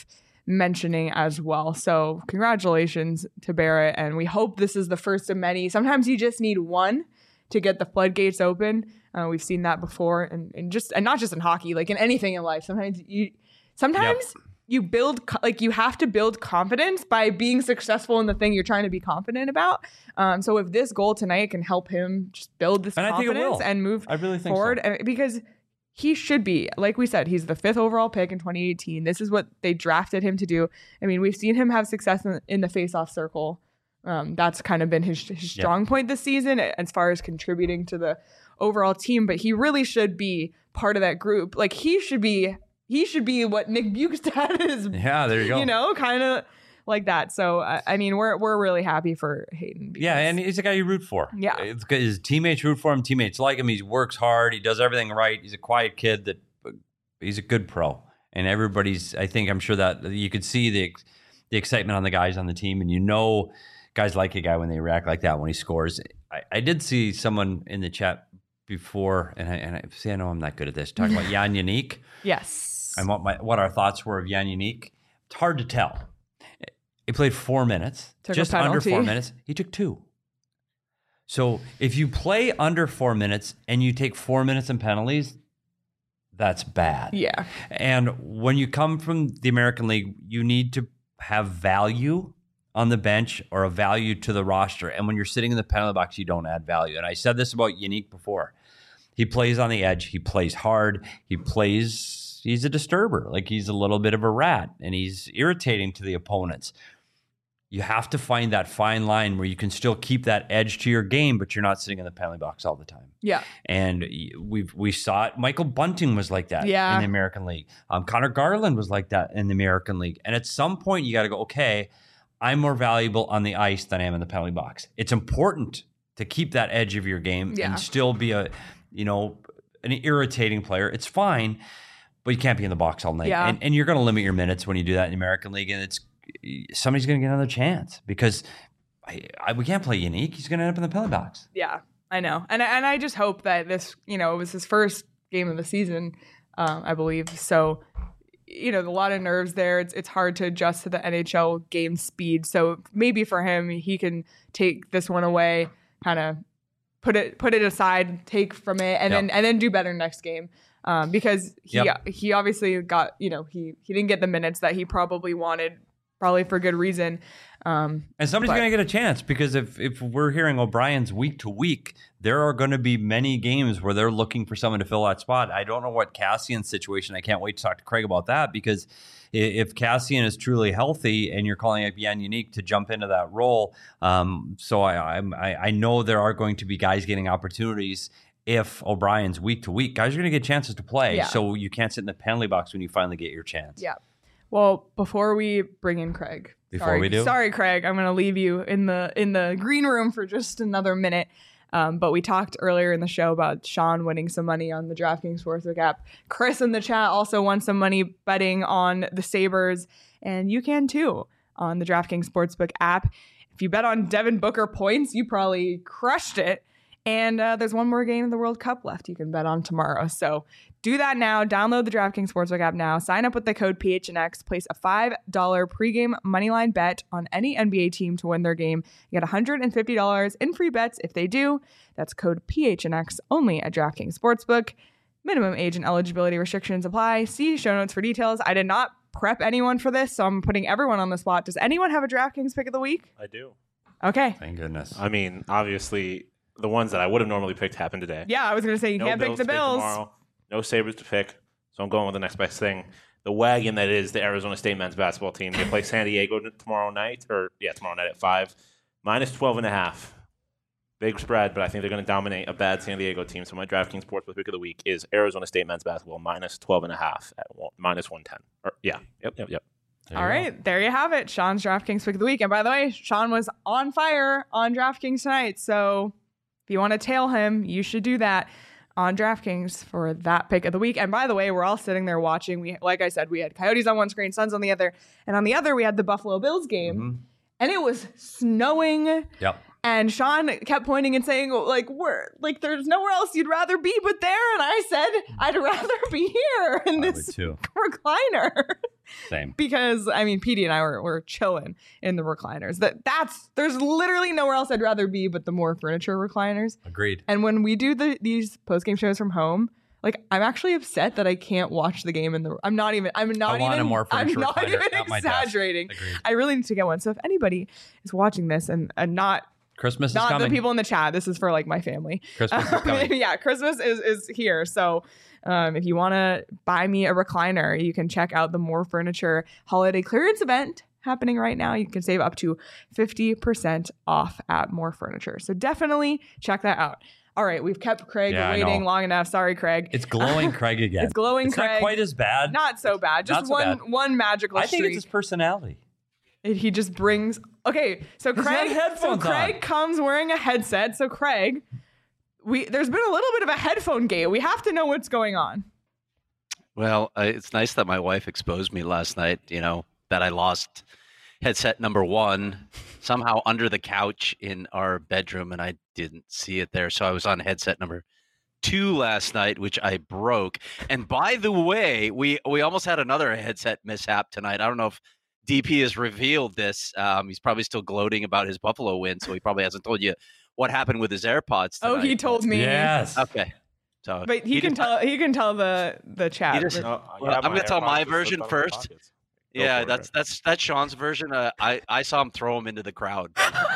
Speaker 1: mentioning as well. So congratulations to Barrett. And we hope this is the first of many. Sometimes you just need one to get the floodgates open. Uh, we've seen that before, and, and just and not just in hockey, like in anything in life. Sometimes you sometimes yep. you build like you have to build confidence by being successful in the thing you're trying to be confident about. Um, so if this goal tonight can help him just build this
Speaker 3: and
Speaker 1: confidence and move
Speaker 3: I really think
Speaker 1: forward,
Speaker 3: so.
Speaker 1: and because he should be, like we said, he's the fifth overall pick in twenty eighteen. This is what they drafted him to do. I mean, we've seen him have success in, in the faceoff circle. Um, that's kind of been his, his strong yep. point this season as far as contributing to the overall team, but he really should be part of that group. Like he should be, he should be what Nick Bjugstad is.
Speaker 3: Yeah, there you go.
Speaker 1: You know, kind of like that. So I, I mean, we're we're really happy for Hayden. Because,
Speaker 3: yeah, and he's a guy you root for.
Speaker 1: Yeah,
Speaker 3: it's good. His teammates root for him. Teammates like him. He works hard. He does everything right. He's a quiet kid. That he's a good pro, and everybody's. I think I'm sure that you could see the the excitement on the guys on the team, and you know, guys like a guy when they react like that when he scores. I, I did see someone in the chat before, and I, and I see, I know I'm not good at this, talking about Jan Jeník.
Speaker 1: Yes.
Speaker 3: And what my what our thoughts were of Jan Jeník. It's hard to tell. He played four minutes,
Speaker 1: took
Speaker 3: just under four minutes. He took two. So if you play under four minutes and you take four minutes in penalties, that's bad.
Speaker 1: Yeah.
Speaker 3: And when you come from the American League, you need to have value on the bench or a value to the roster. And when you're sitting in the penalty box, you don't add value. And I said this about Jeník before. He plays on the edge. He plays hard. He plays, he's a disturber. Like he's a little bit of a rat and he's irritating to the opponents. You have to find that fine line where you can still keep that edge to your game, but you're not sitting in the penalty box all the time.
Speaker 1: Yeah.
Speaker 3: And we we saw it. Michael Bunting was like that
Speaker 1: yeah.
Speaker 3: in the American League. Um, Connor Garland was like that in the American League. And at some point, you got to go, okay, I'm more valuable on the ice than I am in the penalty box. It's important to keep that edge of your game
Speaker 1: yeah.
Speaker 3: and still be a, you know, an irritating player. It's fine, but you can't be in the box all night.
Speaker 1: Yeah.
Speaker 3: And, and you're going to limit your minutes when you do that in the American League. And it's somebody's going to get another chance because I, I, we can't play Jeník. He's going to end up in the penalty box.
Speaker 1: Yeah, I know. And, and I just hope that this, you know, it was his first game of the season, um, I believe. So, you know, a lot of nerves there. It's it's hard to adjust to the N H L game speed. So maybe for him, he can take this one away, kind of put it put it aside, take from it, and
Speaker 3: yep.
Speaker 1: then and then do better next game. Um, because he
Speaker 3: yep.
Speaker 1: he obviously got, you know, he he didn't get the minutes that he probably wanted, probably for good reason. Um,
Speaker 3: and somebody's going to get a chance because if if we're hearing O'Brien's week to week, there are going to be many games where they're looking for someone to fill that spot. I don't know what Cassian's situation. I can't wait to talk to Craig about that because if Cassian is truly healthy and you're calling up Jan Jeník to jump into that role, um, so I, I I know there are going to be guys getting opportunities. If O'Brien's week to week, guys are going to get chances to play.
Speaker 1: Yeah.
Speaker 3: So you can't sit in the penalty box when you finally get your chance.
Speaker 1: Yeah. Well, before we bring in Craig,
Speaker 3: before
Speaker 1: sorry,
Speaker 3: we do,
Speaker 1: sorry, Craig, I'm going to leave you in the in the green room for just another minute. Um, but we talked earlier in the show about Sean winning some money on the DraftKings Sportsbook app. Chris in the chat also won some money betting on the Sabres, and you can too on the DraftKings Sportsbook app. If you bet on Devin Booker points, you probably crushed it. And uh, there's one more game in the World Cup left you can bet on tomorrow. So do that now. Download the DraftKings Sportsbook app now. Sign up with the code P H N X. Place a five dollars pregame moneyline bet on any N B A team to win their game. You get one hundred fifty dollars in free bets if they do. That's code P H N X only at DraftKings Sportsbook. Minimum age and eligibility restrictions apply. See show notes for details. I did not prep anyone for this, so I'm putting everyone on the spot. Does anyone have a DraftKings pick of the week?
Speaker 2: I do.
Speaker 1: Okay.
Speaker 3: Thank goodness.
Speaker 2: I mean, obviously, the ones that I would have normally picked happened today.
Speaker 1: Yeah, I was going to say you
Speaker 2: no
Speaker 1: can't pick the
Speaker 2: to
Speaker 1: Bills.
Speaker 2: Tomorrow, no Sabres to pick, so I'm going with the next best thing. The wagon that is the Arizona State men's basketball team. They play San Diego tomorrow night, or yeah, tomorrow night at five. Minus twelve and a half. Big spread, but I think they're going to dominate a bad San Diego team. So my DraftKings Sportsbook pick of the week is Arizona State men's basketball minus twelve and a half at one, minus one ten. Or yeah, yep, yep, yep.
Speaker 1: There All right, go. There you have it. Sean's DraftKings pick of the week. And by the way, Sean was on fire on DraftKings tonight, so if you want to tail him, you should do that on DraftKings for that pick of the week. And by the way, we're all sitting there watching. We, like I said, we had Coyotes on one screen, Suns on the other. And on the other, we had the Buffalo Bills game. Mm-hmm. And it was snowing.
Speaker 3: Yep. And
Speaker 1: Sean kept pointing and saying, like, we're like, there's nowhere else you'd rather be but there. And I said, I'd rather be here in this recliner.
Speaker 3: Same.
Speaker 1: Because I mean, Petey and I were, were chilling in the recliners. That that's there's literally nowhere else I'd rather be but the More Furniture recliners.
Speaker 3: Agreed.
Speaker 1: And when we do the these post game shows from home, like I'm actually upset that I can't watch the game in the. I'm not even. I'm not
Speaker 3: I want
Speaker 1: even.
Speaker 3: a More
Speaker 1: I'm
Speaker 3: Furniture
Speaker 1: not
Speaker 3: recliner
Speaker 1: even
Speaker 3: at my desk.
Speaker 1: exaggerating.
Speaker 3: Agreed.
Speaker 1: I really need to get one. So if anybody is watching this and, and not
Speaker 3: Christmas is
Speaker 1: not
Speaker 3: coming.
Speaker 1: the people in the chat, this is for like my family.
Speaker 3: Christmas is coming.
Speaker 1: Yeah, Christmas is is here. So. Um, if you want to buy me a recliner, you can check out the More Furniture holiday clearance event happening right now. You can save up to fifty percent off at More Furniture. So definitely check that out. All right, we've kept Craig
Speaker 3: Yeah, I
Speaker 1: waiting
Speaker 3: know.
Speaker 1: long enough. Sorry, Craig.
Speaker 3: It's glowing Craig again.
Speaker 1: It's glowing
Speaker 3: It's
Speaker 1: Craig.
Speaker 3: not quite as bad.
Speaker 1: Not so bad. Just
Speaker 3: Not so
Speaker 1: one
Speaker 3: bad.
Speaker 1: one magical
Speaker 3: I think
Speaker 1: streak.
Speaker 3: it's his personality.
Speaker 1: It- he just brings. Okay, so
Speaker 3: He's
Speaker 1: Craig.
Speaker 3: got headphones
Speaker 1: so Craig
Speaker 3: on.
Speaker 1: comes wearing a headset. So Craig, we there's been a little bit of a headphone gate. We have to know what's going on.
Speaker 4: Well, uh, it's nice that my wife exposed me last night, you know, that I lost headset number one somehow under the couch in our bedroom, and I didn't see it there. So I was on headset number two last night, which I broke. And by the way, we, we almost had another headset mishap tonight. I don't know if D P has revealed this. Um, he's probably still gloating about his Buffalo win, so he probably hasn't told you what happened with his AirPods tonight.
Speaker 1: Oh, he told me.
Speaker 3: Yes.
Speaker 4: Okay. So
Speaker 1: But he, can
Speaker 4: just-
Speaker 1: tell. He can tell the the chat.
Speaker 4: He just-
Speaker 2: No,
Speaker 4: Well,
Speaker 2: yeah,
Speaker 4: I'm gonna tell
Speaker 2: AirPods
Speaker 4: my
Speaker 2: just
Speaker 4: version
Speaker 2: slipped out of my
Speaker 4: first.
Speaker 2: pockets. Go
Speaker 4: Yeah,
Speaker 2: for
Speaker 4: that's
Speaker 2: it.
Speaker 4: that's that's Sean's version. Uh, I I saw him throw him into the crowd.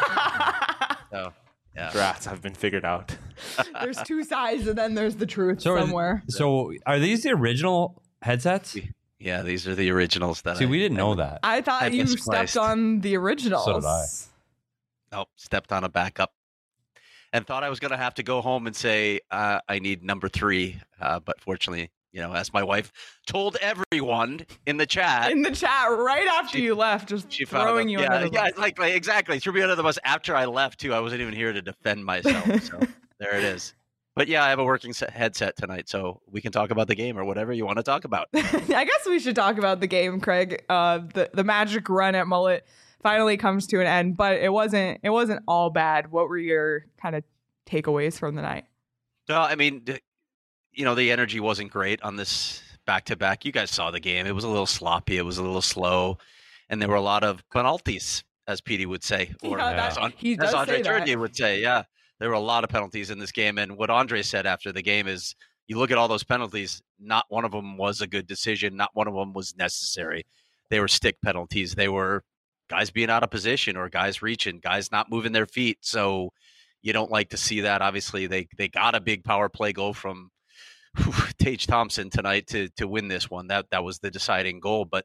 Speaker 4: So yeah,
Speaker 2: Drafts have been figured out.
Speaker 1: There's two sides, and then there's the truth
Speaker 3: So, are th-
Speaker 1: somewhere.
Speaker 3: so are these the original headsets?
Speaker 4: yeah. These are the originals that
Speaker 3: See,
Speaker 4: I,
Speaker 3: we didn't
Speaker 4: I
Speaker 3: know
Speaker 4: would-
Speaker 3: that.
Speaker 1: I thought
Speaker 4: I
Speaker 1: you
Speaker 4: misplaced.
Speaker 1: stepped on the originals.
Speaker 3: So did I.
Speaker 4: Oh, stepped on a backup, and thought I was gonna have to go home and say uh, I need number three. Uh, but fortunately, you know, as my wife told everyone in the chat,
Speaker 1: In the chat, right after
Speaker 4: She-
Speaker 1: you left, just
Speaker 4: she found
Speaker 1: throwing
Speaker 4: it.
Speaker 1: you
Speaker 4: Yeah,
Speaker 1: under the
Speaker 4: yeah,
Speaker 1: bus.
Speaker 4: like, like exactly threw me under the bus after I left too. I wasn't even here to defend myself. So there it is. But yeah, I have a working set headset tonight, so we can talk about the game or whatever you want to talk about.
Speaker 1: I guess we should talk about the game, Craig. Uh, the the magic run at Mullet finally comes to an end, but it wasn't it wasn't all bad. What were your kind of takeaways from the night?
Speaker 4: Well, I mean, d- you know, the energy wasn't great on this back to back. You guys saw the game; it was a little sloppy, it was a little slow, and there were a lot of penalties, as Petey would say, or
Speaker 1: Yeah,
Speaker 3: that-
Speaker 4: as, An-
Speaker 1: he
Speaker 4: as
Speaker 1: does
Speaker 4: Andre
Speaker 1: say that.
Speaker 4: Turgeon would say. Yeah, there were a lot of penalties in this game, and what Andre said after the game is, you look at all those penalties, not one of them was a good decision, not one of them was necessary. They were stick penalties. They were guys being out of position or guys reaching, guys not moving their feet. So you don't like to see that. Obviously, they they got a big power play goal from whew, Tage Thompson tonight to to win this one. That that was the deciding goal, but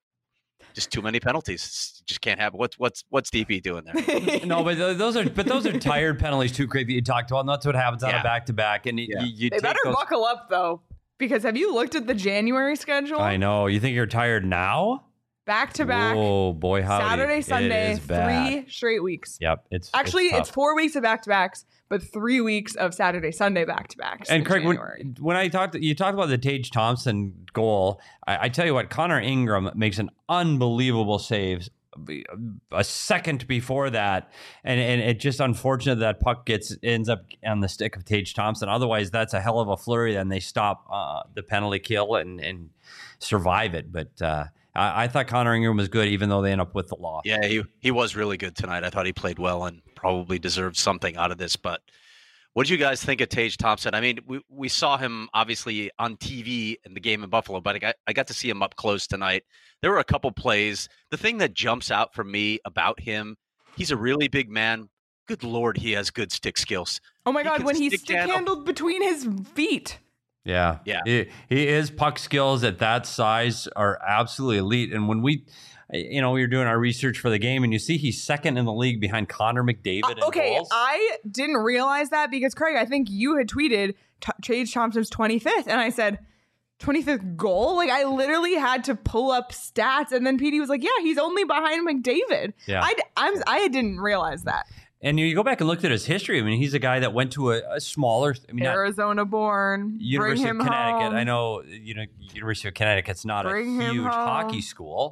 Speaker 4: just too many penalties. Just can't have. What's what's what's D P doing there?
Speaker 3: No, but th- those are but those are tired penalties too, Craig, that you talked about. And that's what happens on
Speaker 4: Yeah.
Speaker 3: a back to back. And y-
Speaker 4: Yeah.
Speaker 3: you, you
Speaker 1: They
Speaker 3: take
Speaker 1: better
Speaker 3: those.
Speaker 1: buckle up though, because have you looked at the January schedule?
Speaker 3: I know. You think you're tired now?
Speaker 1: Back to back,
Speaker 3: Oh boy, howdy.
Speaker 1: Saturday,
Speaker 3: It
Speaker 1: Sunday,
Speaker 3: is bad.
Speaker 1: three straight weeks.
Speaker 3: Yep. It's
Speaker 1: Actually,
Speaker 3: it's,
Speaker 1: it's,
Speaker 3: tough.
Speaker 1: four weeks of back to backs, but three weeks of Saturday, Sunday back to backs.
Speaker 3: And
Speaker 1: in
Speaker 3: Craig, when,
Speaker 1: January.
Speaker 3: when I talked, you talked about the Tage Thompson goal. I, I tell you what, Connor Ingram makes an unbelievable save a second before that, and and it just unfortunate that puck gets ends up on the stick of Tage Thompson. Otherwise, that's a hell of a flurry. Then they stop uh, the penalty kill and and survive it. But uh, I, I thought Connor Ingram was good, even though they end up with the loss.
Speaker 4: Yeah, he he was really good tonight. I thought he played well and probably deserved something out of this. But what did you guys think of Tage Thompson? I mean, we, we saw him obviously on T V in the game in Buffalo, but I got I got to see him up close tonight. There were a couple plays. The thing that jumps out for me about him, he's a really big man. Good Lord, he has good stick skills.
Speaker 1: Oh my
Speaker 4: he
Speaker 1: God,
Speaker 4: can
Speaker 1: when he
Speaker 4: stick
Speaker 1: stick
Speaker 4: handle-
Speaker 1: handled between his feet.
Speaker 3: Yeah.
Speaker 4: Yeah.
Speaker 3: He, he is puck skills at that size are absolutely elite. And when we, you know, we were doing our research for the game and you see he's second in the league behind Connor McDavid in
Speaker 1: Uh, okay,
Speaker 3: goals.
Speaker 1: I didn't realize that because Craig, I think you had tweeted T- Tage Thompson's twenty-fifth, and I said twenty-fifth goal. Like I literally had to pull up stats, and then P D was like, "Yeah, he's only behind McDavid."
Speaker 3: Yeah.
Speaker 1: I, I'm, I didn't realize that.
Speaker 3: And you go back and look at his history. I mean, he's a guy that went to a, a smaller, I mean, not
Speaker 1: Arizona born.
Speaker 3: University
Speaker 1: Bring him
Speaker 3: of Connecticut.
Speaker 1: home.
Speaker 3: I know, you know, University of Connecticut's not
Speaker 1: Bring
Speaker 3: a
Speaker 1: him
Speaker 3: huge
Speaker 1: home.
Speaker 3: hockey school.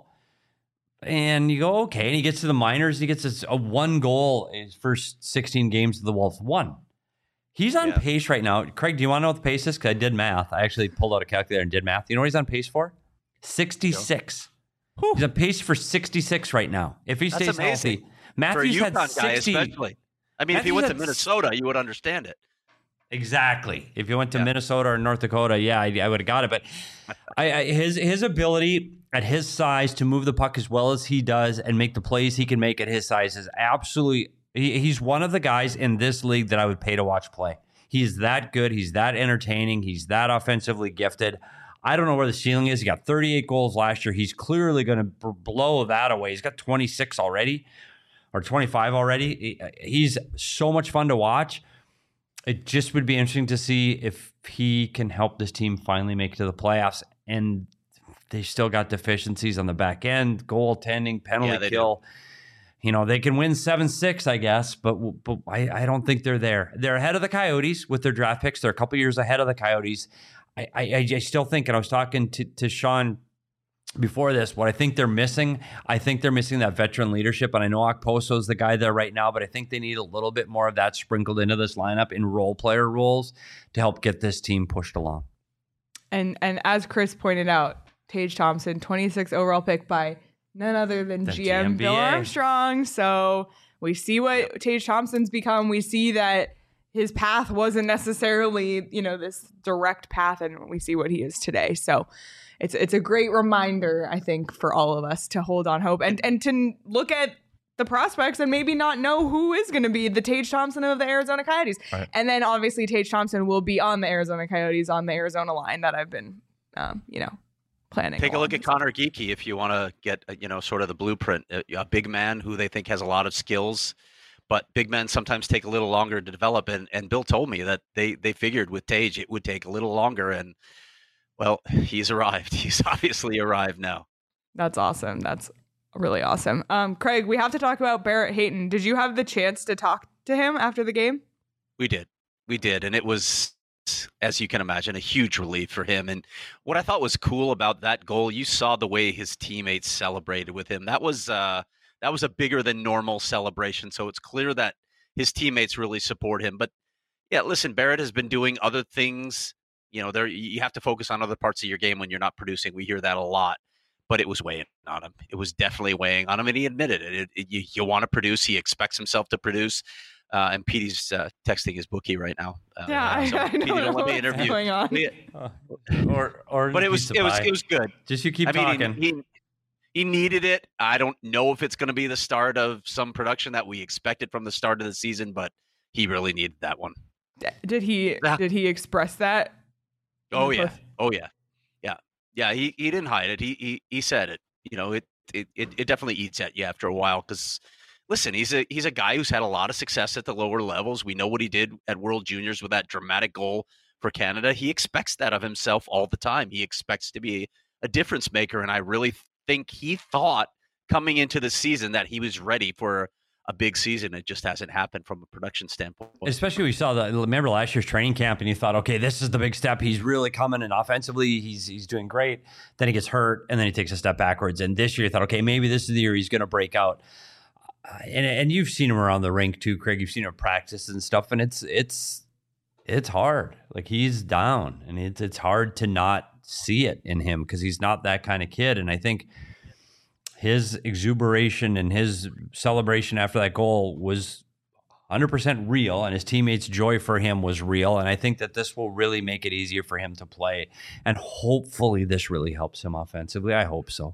Speaker 3: And you go, okay. And he gets to the minors. He gets a, a one goal in his first sixteen games of the Wolves. One. He's on
Speaker 4: Yeah.
Speaker 3: pace right now. Craig, do you want to know what the pace is? Because I did math. I actually pulled out a calculator and did math. You know what he's on pace for? sixty-six. He's on pace for sixty-six right now. If he
Speaker 4: That's
Speaker 3: stays
Speaker 4: amazing.
Speaker 3: healthy, Matthews
Speaker 4: For a
Speaker 3: had
Speaker 4: UConn guy,
Speaker 3: sixty.
Speaker 4: especially. I mean, if he
Speaker 3: Matthews
Speaker 4: went to
Speaker 3: had
Speaker 4: Minnesota, you would understand it.
Speaker 3: Exactly. If you went to
Speaker 4: Yeah.
Speaker 3: Minnesota or North Dakota, yeah, I, I would have got it. But I, I, his his ability at his size to move the puck as well as he does and make the plays he can make at his size is absolutely. He, he's one of the guys in this league that I would pay to watch play. He's that good. He's that entertaining. He's that offensively gifted. I don't know where the ceiling is. He got thirty-eight goals last year. He's clearly going to b- blow that away. He's got twenty-six already or twenty-five already. He, he's so much fun to watch. It just would be interesting to see if he can help this team finally make it to the playoffs. And they still got deficiencies on the back end, goaltending, penalty
Speaker 4: Yeah, they
Speaker 3: kill. You know, they can win seven six, I guess, but but I, I don't think they're there. They're ahead of the Coyotes with their draft picks. They're a couple years ahead of the Coyotes. I, I, I still think, and I was talking to, to Sean before this, what I think they're missing, I think they're missing that veteran leadership. And I know Okposo is the guy there right now, but I think they need a little bit more of that sprinkled into this lineup in role player roles to help get this team pushed along.
Speaker 1: And and as Chris pointed out, Tage Thompson, twenty-sixth overall pick by none other than
Speaker 3: The
Speaker 1: G M Bill
Speaker 3: G M B A.
Speaker 1: Armstrong. So we see what Tage Thompson's become. We see that his path wasn't necessarily, you know, this direct path, and we see what he is today. So it's it's a great reminder, I think, for all of us to hold on hope and and to look at the prospects and maybe not know who is going to be the Tage Thompson of the Arizona Coyotes.
Speaker 2: Right.
Speaker 1: And then obviously Tage Thompson will be on the Arizona Coyotes on the Arizona line that I've been, um, you know, planning.
Speaker 4: Take a look
Speaker 1: along.
Speaker 4: at Connor Geekie if you want to get, uh, you know, sort of the blueprint. A, a big man who they think has a lot of skills, but big men sometimes take a little longer to develop. And, and Bill told me that they, they figured with Tage it would take a little longer. And, well, he's arrived. He's obviously arrived now.
Speaker 1: That's awesome. That's really awesome. Um, Craig, we have to talk about Barrett Hayton. Did you have the chance to talk to him after the game?
Speaker 4: We did. We did. And it was, as you can imagine, a huge relief for him. And what I thought was cool about that goal, you saw the way his teammates celebrated with him. That was uh, that was a bigger than normal celebration. So it's clear that his teammates really support him. But yeah, listen, Barrett has been doing other things. You know, there you have to focus on other parts of your game when you're not producing. We hear that a lot. But it was weighing on him. It was definitely weighing on him, and he admitted it. it, it you, you want to produce. He expects himself to produce. Uh, and Petey's uh, texting his bookie right now. Uh,
Speaker 1: Yeah,
Speaker 4: so
Speaker 1: I, I
Speaker 4: Petey,
Speaker 1: don't know
Speaker 4: don't let me
Speaker 1: what's
Speaker 4: interview.
Speaker 1: going on.
Speaker 4: We-
Speaker 3: Uh, or or
Speaker 4: but it was it was it was good.
Speaker 3: just you keep
Speaker 4: I mean,
Speaker 3: talking.
Speaker 4: he, he he needed it. I don't know if it's going to be the start of some production that we expected from the start of the season, but he really needed that one.
Speaker 1: Did he
Speaker 4: Yeah.
Speaker 1: did he express that? in
Speaker 4: Oh
Speaker 1: the
Speaker 4: yeah,
Speaker 1: post-
Speaker 4: oh yeah, yeah, yeah. He he didn't hide it. He he he said it. You know, it it it, it definitely eats at you after a while because. Listen, he's a he's a guy who's had a lot of success at the lower levels. We know what he did at World Juniors with that dramatic goal for Canada. He expects that of himself all the time. He expects to be a difference maker, and I really think he thought coming into the season that he was ready for a big season. It just hasn't happened from a production standpoint.
Speaker 3: Especially we saw the remember last year's training camp, and you thought, okay, this is the big step. He's really coming, and offensively, he's he's doing great. Then he gets hurt, and then he takes a step backwards. And this year, you thought, okay, maybe this is the year he's going to break out. Uh, and and you've seen him around the rink too, Craig. You've seen him practice and stuff, and it's it's it's hard. Like he's down, and it's it's hard to not see it in him because he's not that kind of kid. And I think his exuberation and his celebration after that goal was one hundred percent real, and his teammates' joy for him was real. And I think that this will really make it easier for him to play, and hopefully this really helps him offensively. I hope so.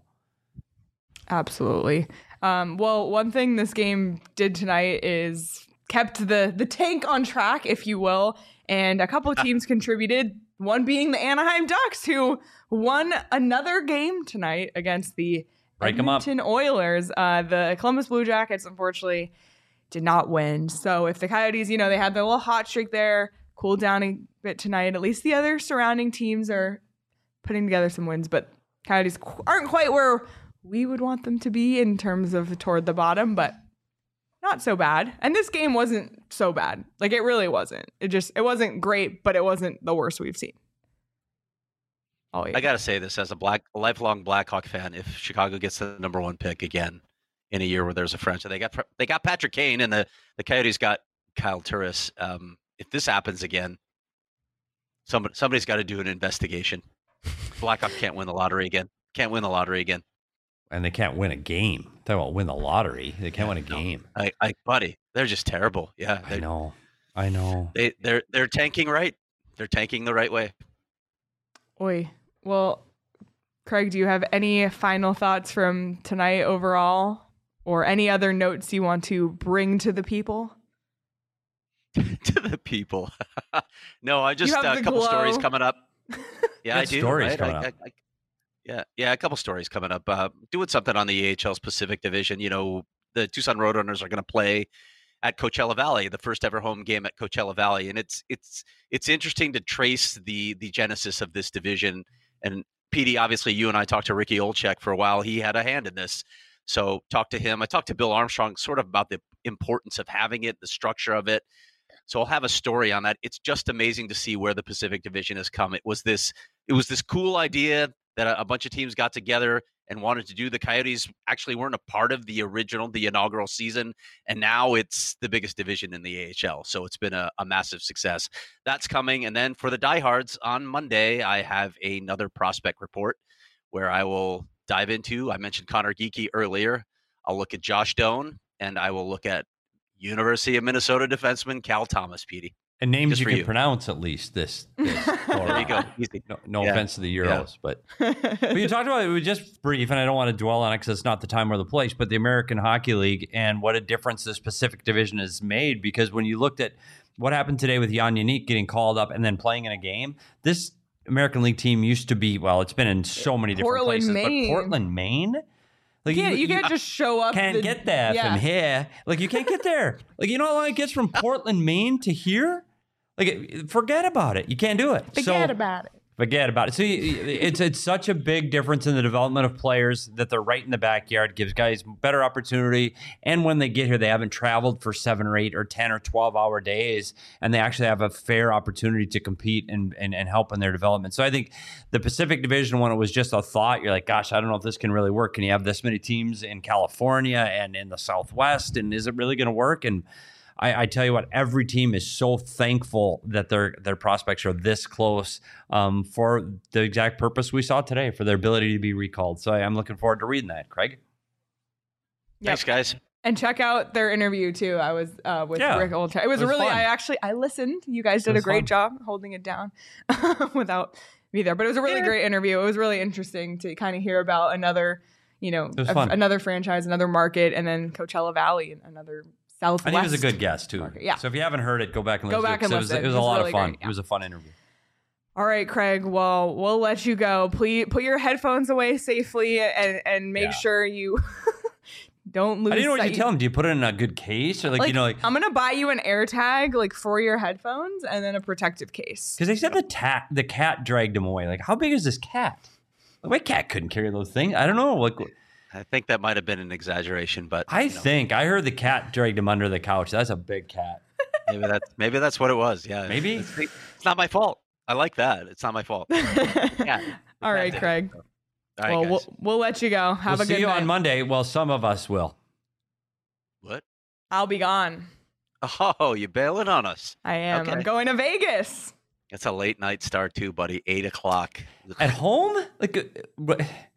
Speaker 1: Absolutely. Um, well, one thing this game did tonight is kept the the tank on track, if you will, and a couple of teams contributed. One being the Anaheim Ducks, who won another game tonight against the
Speaker 3: Break 'em up.
Speaker 1: Edmonton Oilers. Uh, the Columbus Blue Jackets, unfortunately, did not win. So if the Coyotes, you know, they had their little hot streak there, cooled down a bit tonight. At least the other surrounding teams are putting together some wins, but Coyotes qu- aren't quite where we would want them to be in terms of toward the bottom, but not so bad. And this game wasn't so bad. Like it really wasn't. It just, it wasn't great, but it wasn't the worst we've seen. Oh yeah.
Speaker 4: I got to say this as a black, a lifelong Blackhawk fan. If Chicago gets the number one pick again in a year where there's a French, they got they got Patrick Kane, and the, the Coyotes got Kyle Turris. Um, if this happens again, somebody somebody's got to do an investigation. Blackhawk can't win the lottery again. Can't win the lottery again.
Speaker 3: And they can't win a game. Talk about win the lottery. They can't win a game.
Speaker 4: I, I, buddy, they're just terrible. Yeah,
Speaker 3: I know. I know.
Speaker 4: They, they're they're tanking right. They're tanking the right way.
Speaker 1: Oi. Well, Craig, do you have any final thoughts from tonight overall, or any other notes you want to bring to the people?
Speaker 4: To the people. No, I just
Speaker 1: have
Speaker 4: uh, a
Speaker 1: the
Speaker 4: couple
Speaker 1: glow.
Speaker 4: stories coming up. Yeah, I
Speaker 3: Good
Speaker 4: do.
Speaker 3: stories
Speaker 4: right?
Speaker 3: coming
Speaker 4: I-
Speaker 3: up.
Speaker 4: I- I- yeah, yeah, a couple stories coming up. Uh, doing something on the A H L's Pacific Division. You know, the Tucson Roadrunners are going to play at Coachella Valley, the first ever home game at Coachella Valley, and it's it's it's interesting to trace the the genesis of this division. And Petey, obviously, you and I talked to Ricky Olczyk for a while. He had a hand in this, so talked to him. I talked to Bill Armstrong, sort of about the importance of having it, the structure of it. So I'll have a story on that. It's just amazing to see where the Pacific Division has come. It was this it was this cool idea that a, a bunch of teams got together and wanted to do. The Coyotes actually weren't a part of the original, the inaugural season, and now it's the biggest division in the A H L. So it's been a, a massive success. That's coming. And then for the diehards on Monday, I have another prospect report where I will dive into, I mentioned Connor Geekie earlier. I'll look at Josh Doan, and I will look at University of Minnesota defenseman Cal Thomas, Petey.
Speaker 3: And names
Speaker 4: Just
Speaker 3: you
Speaker 4: for
Speaker 3: can
Speaker 4: you.
Speaker 3: pronounce at least this. this
Speaker 4: There you go. Easy.
Speaker 3: No, no
Speaker 4: Yeah.
Speaker 3: offense to the
Speaker 4: Yeah.
Speaker 3: Euros, but but you talked about it. It was just brief, and I don't want to dwell on it because it's not the time or the place. But the American Hockey League and what a difference this Pacific Division has made. Because when you looked at what happened today with Jan Yannick getting called up and then playing in a game, this American League team used to be well. It's been in so many different
Speaker 1: Portland,
Speaker 3: places,
Speaker 1: Maine.
Speaker 3: but Portland, Maine. Like
Speaker 1: You can't, you can't just show up.
Speaker 3: can't
Speaker 1: the-
Speaker 3: get that
Speaker 1: yeah.
Speaker 3: from here. Like you can't get there. Like you know how long it gets from Portland, Maine to here? Like it- forget about it. You can't do it.
Speaker 1: Forget
Speaker 3: so,
Speaker 1: about it.
Speaker 3: Forget about it. So you- it's it's such a big difference in the development of players that they're right in the backyard, gives guys better opportunity. And when they get here, they haven't traveled for seven or eight or ten or twelve hour days, and they actually have a fair opportunity to compete and, and, and help in their development. So I think the Pacific Division, when it was just a thought, you're like, gosh, I don't know if this can really work. Can you have this many teams in California and in the Southwest? And is it really going to work? And I, I tell you what, every team is so thankful that their their prospects are this close um, for the exact purpose we saw today, for their ability to be recalled. So I, I'm looking forward to reading that, Craig.
Speaker 1: Yep.
Speaker 4: Thanks, guys.
Speaker 1: And check out their interview too. I was uh, with
Speaker 3: Yeah,
Speaker 1: Rick Olczyk. It was,
Speaker 3: it was
Speaker 1: really.
Speaker 3: fun.
Speaker 1: I actually I listened. You guys did
Speaker 3: It
Speaker 1: a
Speaker 3: was
Speaker 1: great
Speaker 3: fun.
Speaker 1: job holding it down without me there. But it was a really
Speaker 3: Yeah.
Speaker 1: great interview. It was really interesting to kind of hear about another, you know,
Speaker 3: was
Speaker 1: a-
Speaker 3: fun.
Speaker 1: another franchise, another market, and then Coachella Valley, another Southwest.
Speaker 3: And he was a good guest too.
Speaker 1: market. Yeah.
Speaker 3: So if you haven't heard it, go back and
Speaker 1: Go
Speaker 3: listen.
Speaker 1: back
Speaker 3: to it,
Speaker 1: and
Speaker 3: 'cause
Speaker 1: listen.
Speaker 3: It was, it was
Speaker 1: It
Speaker 3: a
Speaker 1: was
Speaker 3: lot
Speaker 1: really
Speaker 3: of fun.
Speaker 1: great, yeah.
Speaker 3: It was a fun interview.
Speaker 1: All right, Craig. Well, we'll let you go. Please put your headphones away safely and and make
Speaker 3: Yeah.
Speaker 1: sure you don't lose.
Speaker 3: I didn't know what you
Speaker 1: sight.
Speaker 3: tell him. Do you put it in a good case or like,
Speaker 1: Like,
Speaker 3: you know, like
Speaker 1: I'm gonna buy you an air tag like for your headphones and then a protective case.
Speaker 3: because they said the cat the cat dragged him away. Like, how big is this cat? Like, my cat couldn't carry those things. I don't know. Like,
Speaker 4: I think that might have been an exaggeration, but
Speaker 3: I
Speaker 4: you know,
Speaker 3: think I heard the cat dragged him under the couch. That's a big cat.
Speaker 4: maybe that's maybe that's what it was. Yeah,
Speaker 3: Maybe.
Speaker 4: it's, it's not my fault. I like that. It's not my fault. Yeah.
Speaker 1: All right, Craig.
Speaker 4: All right,
Speaker 1: well,
Speaker 4: guys.
Speaker 1: we'll we'll let you go. Have
Speaker 3: we'll
Speaker 1: a
Speaker 3: see
Speaker 1: good
Speaker 3: you
Speaker 1: night.
Speaker 3: on Monday. Well, some of us will.
Speaker 4: What?
Speaker 1: I'll be gone.
Speaker 4: Oh, you bailing on us?
Speaker 1: I am. I'm
Speaker 4: Okay.
Speaker 1: going to Vegas.
Speaker 4: It's a late night start too, buddy. Eight o'clock.
Speaker 3: At home? Like, uh, what-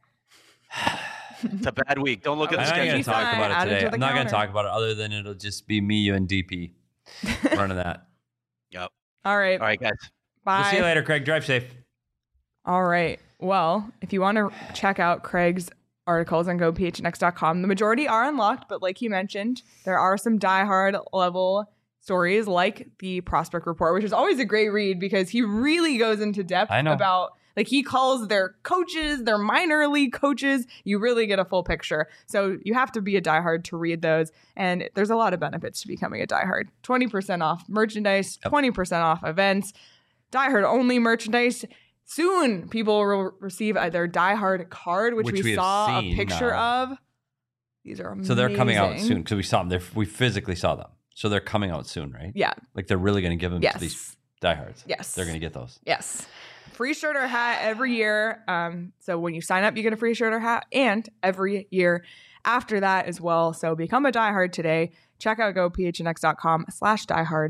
Speaker 4: It's a bad week. Don't look at
Speaker 3: I'm
Speaker 4: the
Speaker 3: not going
Speaker 4: schedule.
Speaker 3: to talk
Speaker 1: Sign,
Speaker 3: about
Speaker 1: add
Speaker 3: it
Speaker 1: it
Speaker 3: today.
Speaker 1: to the
Speaker 3: I'm not going to
Speaker 1: calendar.
Speaker 3: talk about it other than it'll just be me, you, and D P running that.
Speaker 4: Yep.
Speaker 1: All right.
Speaker 4: All right, guys.
Speaker 1: Bye.
Speaker 3: We'll see you later, Craig. Drive safe.
Speaker 1: All right. Well, if you want to check out Craig's articles on go p h n x dot com, the majority are unlocked, but like he mentioned, there are some diehard level stories like the prospect report, which is always a great read because he really goes into depth
Speaker 3: I know.
Speaker 1: about, like, he calls their coaches, their minor league coaches. You really get a full picture. So you have to be a diehard to read those. And there's a lot of benefits to becoming a diehard. twenty percent off merchandise,
Speaker 3: Yep.
Speaker 1: twenty percent off events, diehard only merchandise. Soon, people will receive uh, their diehard card, which,
Speaker 3: Which
Speaker 1: we,
Speaker 3: we have
Speaker 1: saw a
Speaker 3: seen
Speaker 1: picture
Speaker 3: now.
Speaker 1: of. These are amazing.
Speaker 3: So they're coming out soon because we saw them. They're, we physically saw them. So they're coming out soon, right?
Speaker 1: Yeah.
Speaker 3: Like they're really going to give them
Speaker 1: Yes.
Speaker 3: to these diehards.
Speaker 1: Yes.
Speaker 3: They're going to get those.
Speaker 1: Yes. Free shirt or hat every year. Um, so when you sign up, you get a free shirt or hat, and every year after that as well. So become a diehard today. Check out go p h n x dot com slash diehard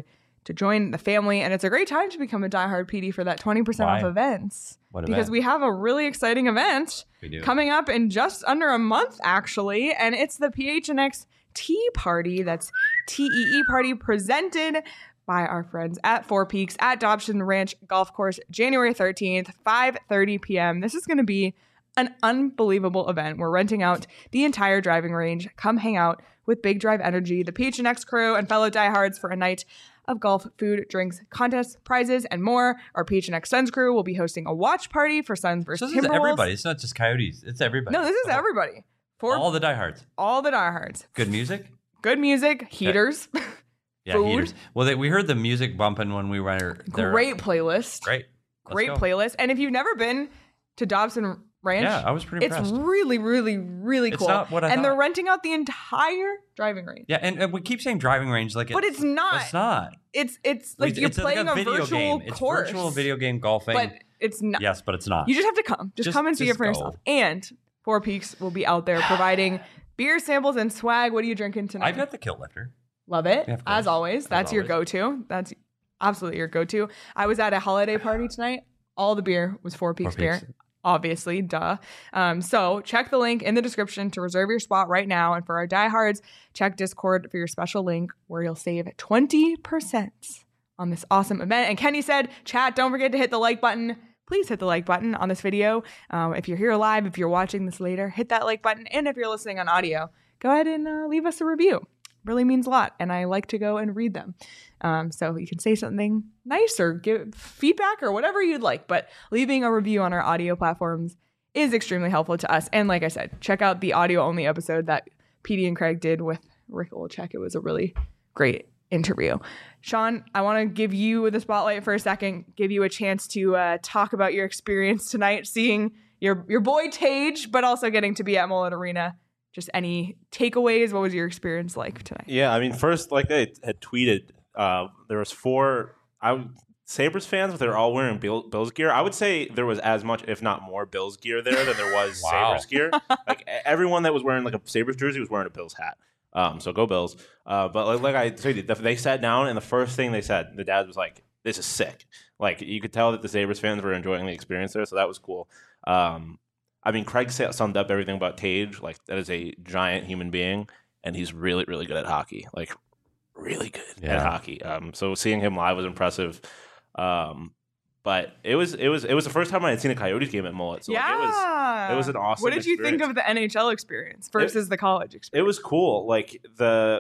Speaker 1: to join the family. And it's a great time to become a diehard P D for that twenty percent
Speaker 3: Why?
Speaker 1: off events.
Speaker 3: What
Speaker 1: because
Speaker 3: event?
Speaker 1: we have a really exciting event
Speaker 3: We do.
Speaker 1: coming up in just under a month, actually. And it's the P H N X Tea Party. That's T E E Party, presented by our friends at Four Peaks at Dobson Ranch Golf Course, January thirteenth, five thirty p.m. This is going to be an unbelievable event. We're renting out the entire driving range. Come hang out with Big Drive Energy, the P H N X crew, and fellow diehards for a night of golf, food, drinks, contests, prizes, and more. Our P H N X Suns crew will be hosting a watch party for Suns
Speaker 3: So
Speaker 1: versus
Speaker 3: this is
Speaker 1: Timberwolves.
Speaker 3: everybody. It's not just Coyotes. It's everybody.
Speaker 1: No, this is
Speaker 3: The whole-
Speaker 1: everybody. For
Speaker 3: All the diehards.
Speaker 1: all the diehards.
Speaker 3: Good music.
Speaker 1: Good music, heaters,
Speaker 3: Yeah,
Speaker 1: Food.
Speaker 3: heaters. Well, they, we heard the music bumping when we were there.
Speaker 1: great playlist.
Speaker 3: Great. Let's
Speaker 1: Great
Speaker 3: go.
Speaker 1: playlist. And if you've never been to Dobson Ranch,
Speaker 3: Yeah, I was pretty
Speaker 1: it's
Speaker 3: impressed.
Speaker 1: really, really, really
Speaker 3: It's
Speaker 1: cool.
Speaker 3: not what I
Speaker 1: and they're
Speaker 3: thought.
Speaker 1: renting out the entire driving range.
Speaker 3: Yeah, and, and we keep saying driving range like
Speaker 1: But it's not.
Speaker 3: It's not.
Speaker 1: It's it's like
Speaker 3: It's-
Speaker 1: you're
Speaker 3: it's
Speaker 1: playing
Speaker 3: like
Speaker 1: a,
Speaker 3: video
Speaker 1: virtual
Speaker 3: game. It's
Speaker 1: course.
Speaker 3: virtual video game golfing.
Speaker 1: But it's not.
Speaker 3: Yes, but it's not.
Speaker 1: You just have to come. Just,
Speaker 3: Just-
Speaker 1: come and see it
Speaker 3: just
Speaker 1: for
Speaker 3: go.
Speaker 1: yourself. And Four Peaks will be out there providing beer samples and swag. What are you drinking tonight?
Speaker 3: I've got the kill lifter.
Speaker 1: Love it.
Speaker 3: Yeah, of course.
Speaker 1: As always.
Speaker 3: As
Speaker 1: That's your
Speaker 3: always.
Speaker 1: go-to. That's absolutely your go-to. I was at a holiday party tonight. All the beer was Four Peaks,
Speaker 3: Four Peaks.
Speaker 1: beer. Obviously, duh. Um, so check the link in the description to reserve your spot right now. And for our diehards, check Discord for your special link where you'll save twenty percent on this awesome event. And Kenny said, chat, don't forget to hit the like button. Please hit the like button on this video. Um, if you're here live, if you're watching this later, hit that like button. And if you're listening on audio, go ahead and uh, leave us a review. Really means a lot. And I like to go and read them. Um, so you can say something nice or give feedback or whatever you'd like. But leaving a review on our audio platforms is extremely helpful to us. And like I said, check out the audio only episode that P D and Craig did with Rick Olchek. It was a really great interview. Sean, I want to give you the spotlight for a second, give you a chance to uh, talk about your experience tonight, seeing your your boy Tage, but also getting to be at Mullet Arena. Just any takeaways? What was your experience like tonight?
Speaker 2: Yeah, I mean, first, like I had tweeted, uh, there was four I, Sabres fans, but they're all wearing Bill, Bills gear. I would say there was as much, if not more, Bills gear there than there was
Speaker 3: Wow.
Speaker 2: Sabres gear. Like e- everyone that was wearing like a Sabres jersey was wearing a Bills hat. Um, so go Bills. Uh, but like, like I tweeted, they sat down, and the first thing they said, the dad was like, "This is sick." Like you could tell that the Sabres fans were enjoying the experience there, so that was cool. Um, I mean, Craig sa- summed up everything about Tage. Like that is a giant human being, and he's really, really good at hockey. Like really good
Speaker 3: Yeah.
Speaker 2: at hockey. Um, so seeing him live was impressive. Um, but it was it was it was the first time I had seen a Coyotes game at Mullet. So like, it was
Speaker 1: yeah.
Speaker 2: it was an awesome
Speaker 1: What did you think
Speaker 2: experience.
Speaker 1: of the N H L experience versus the college
Speaker 2: it
Speaker 1: experience?
Speaker 2: was cool. Like the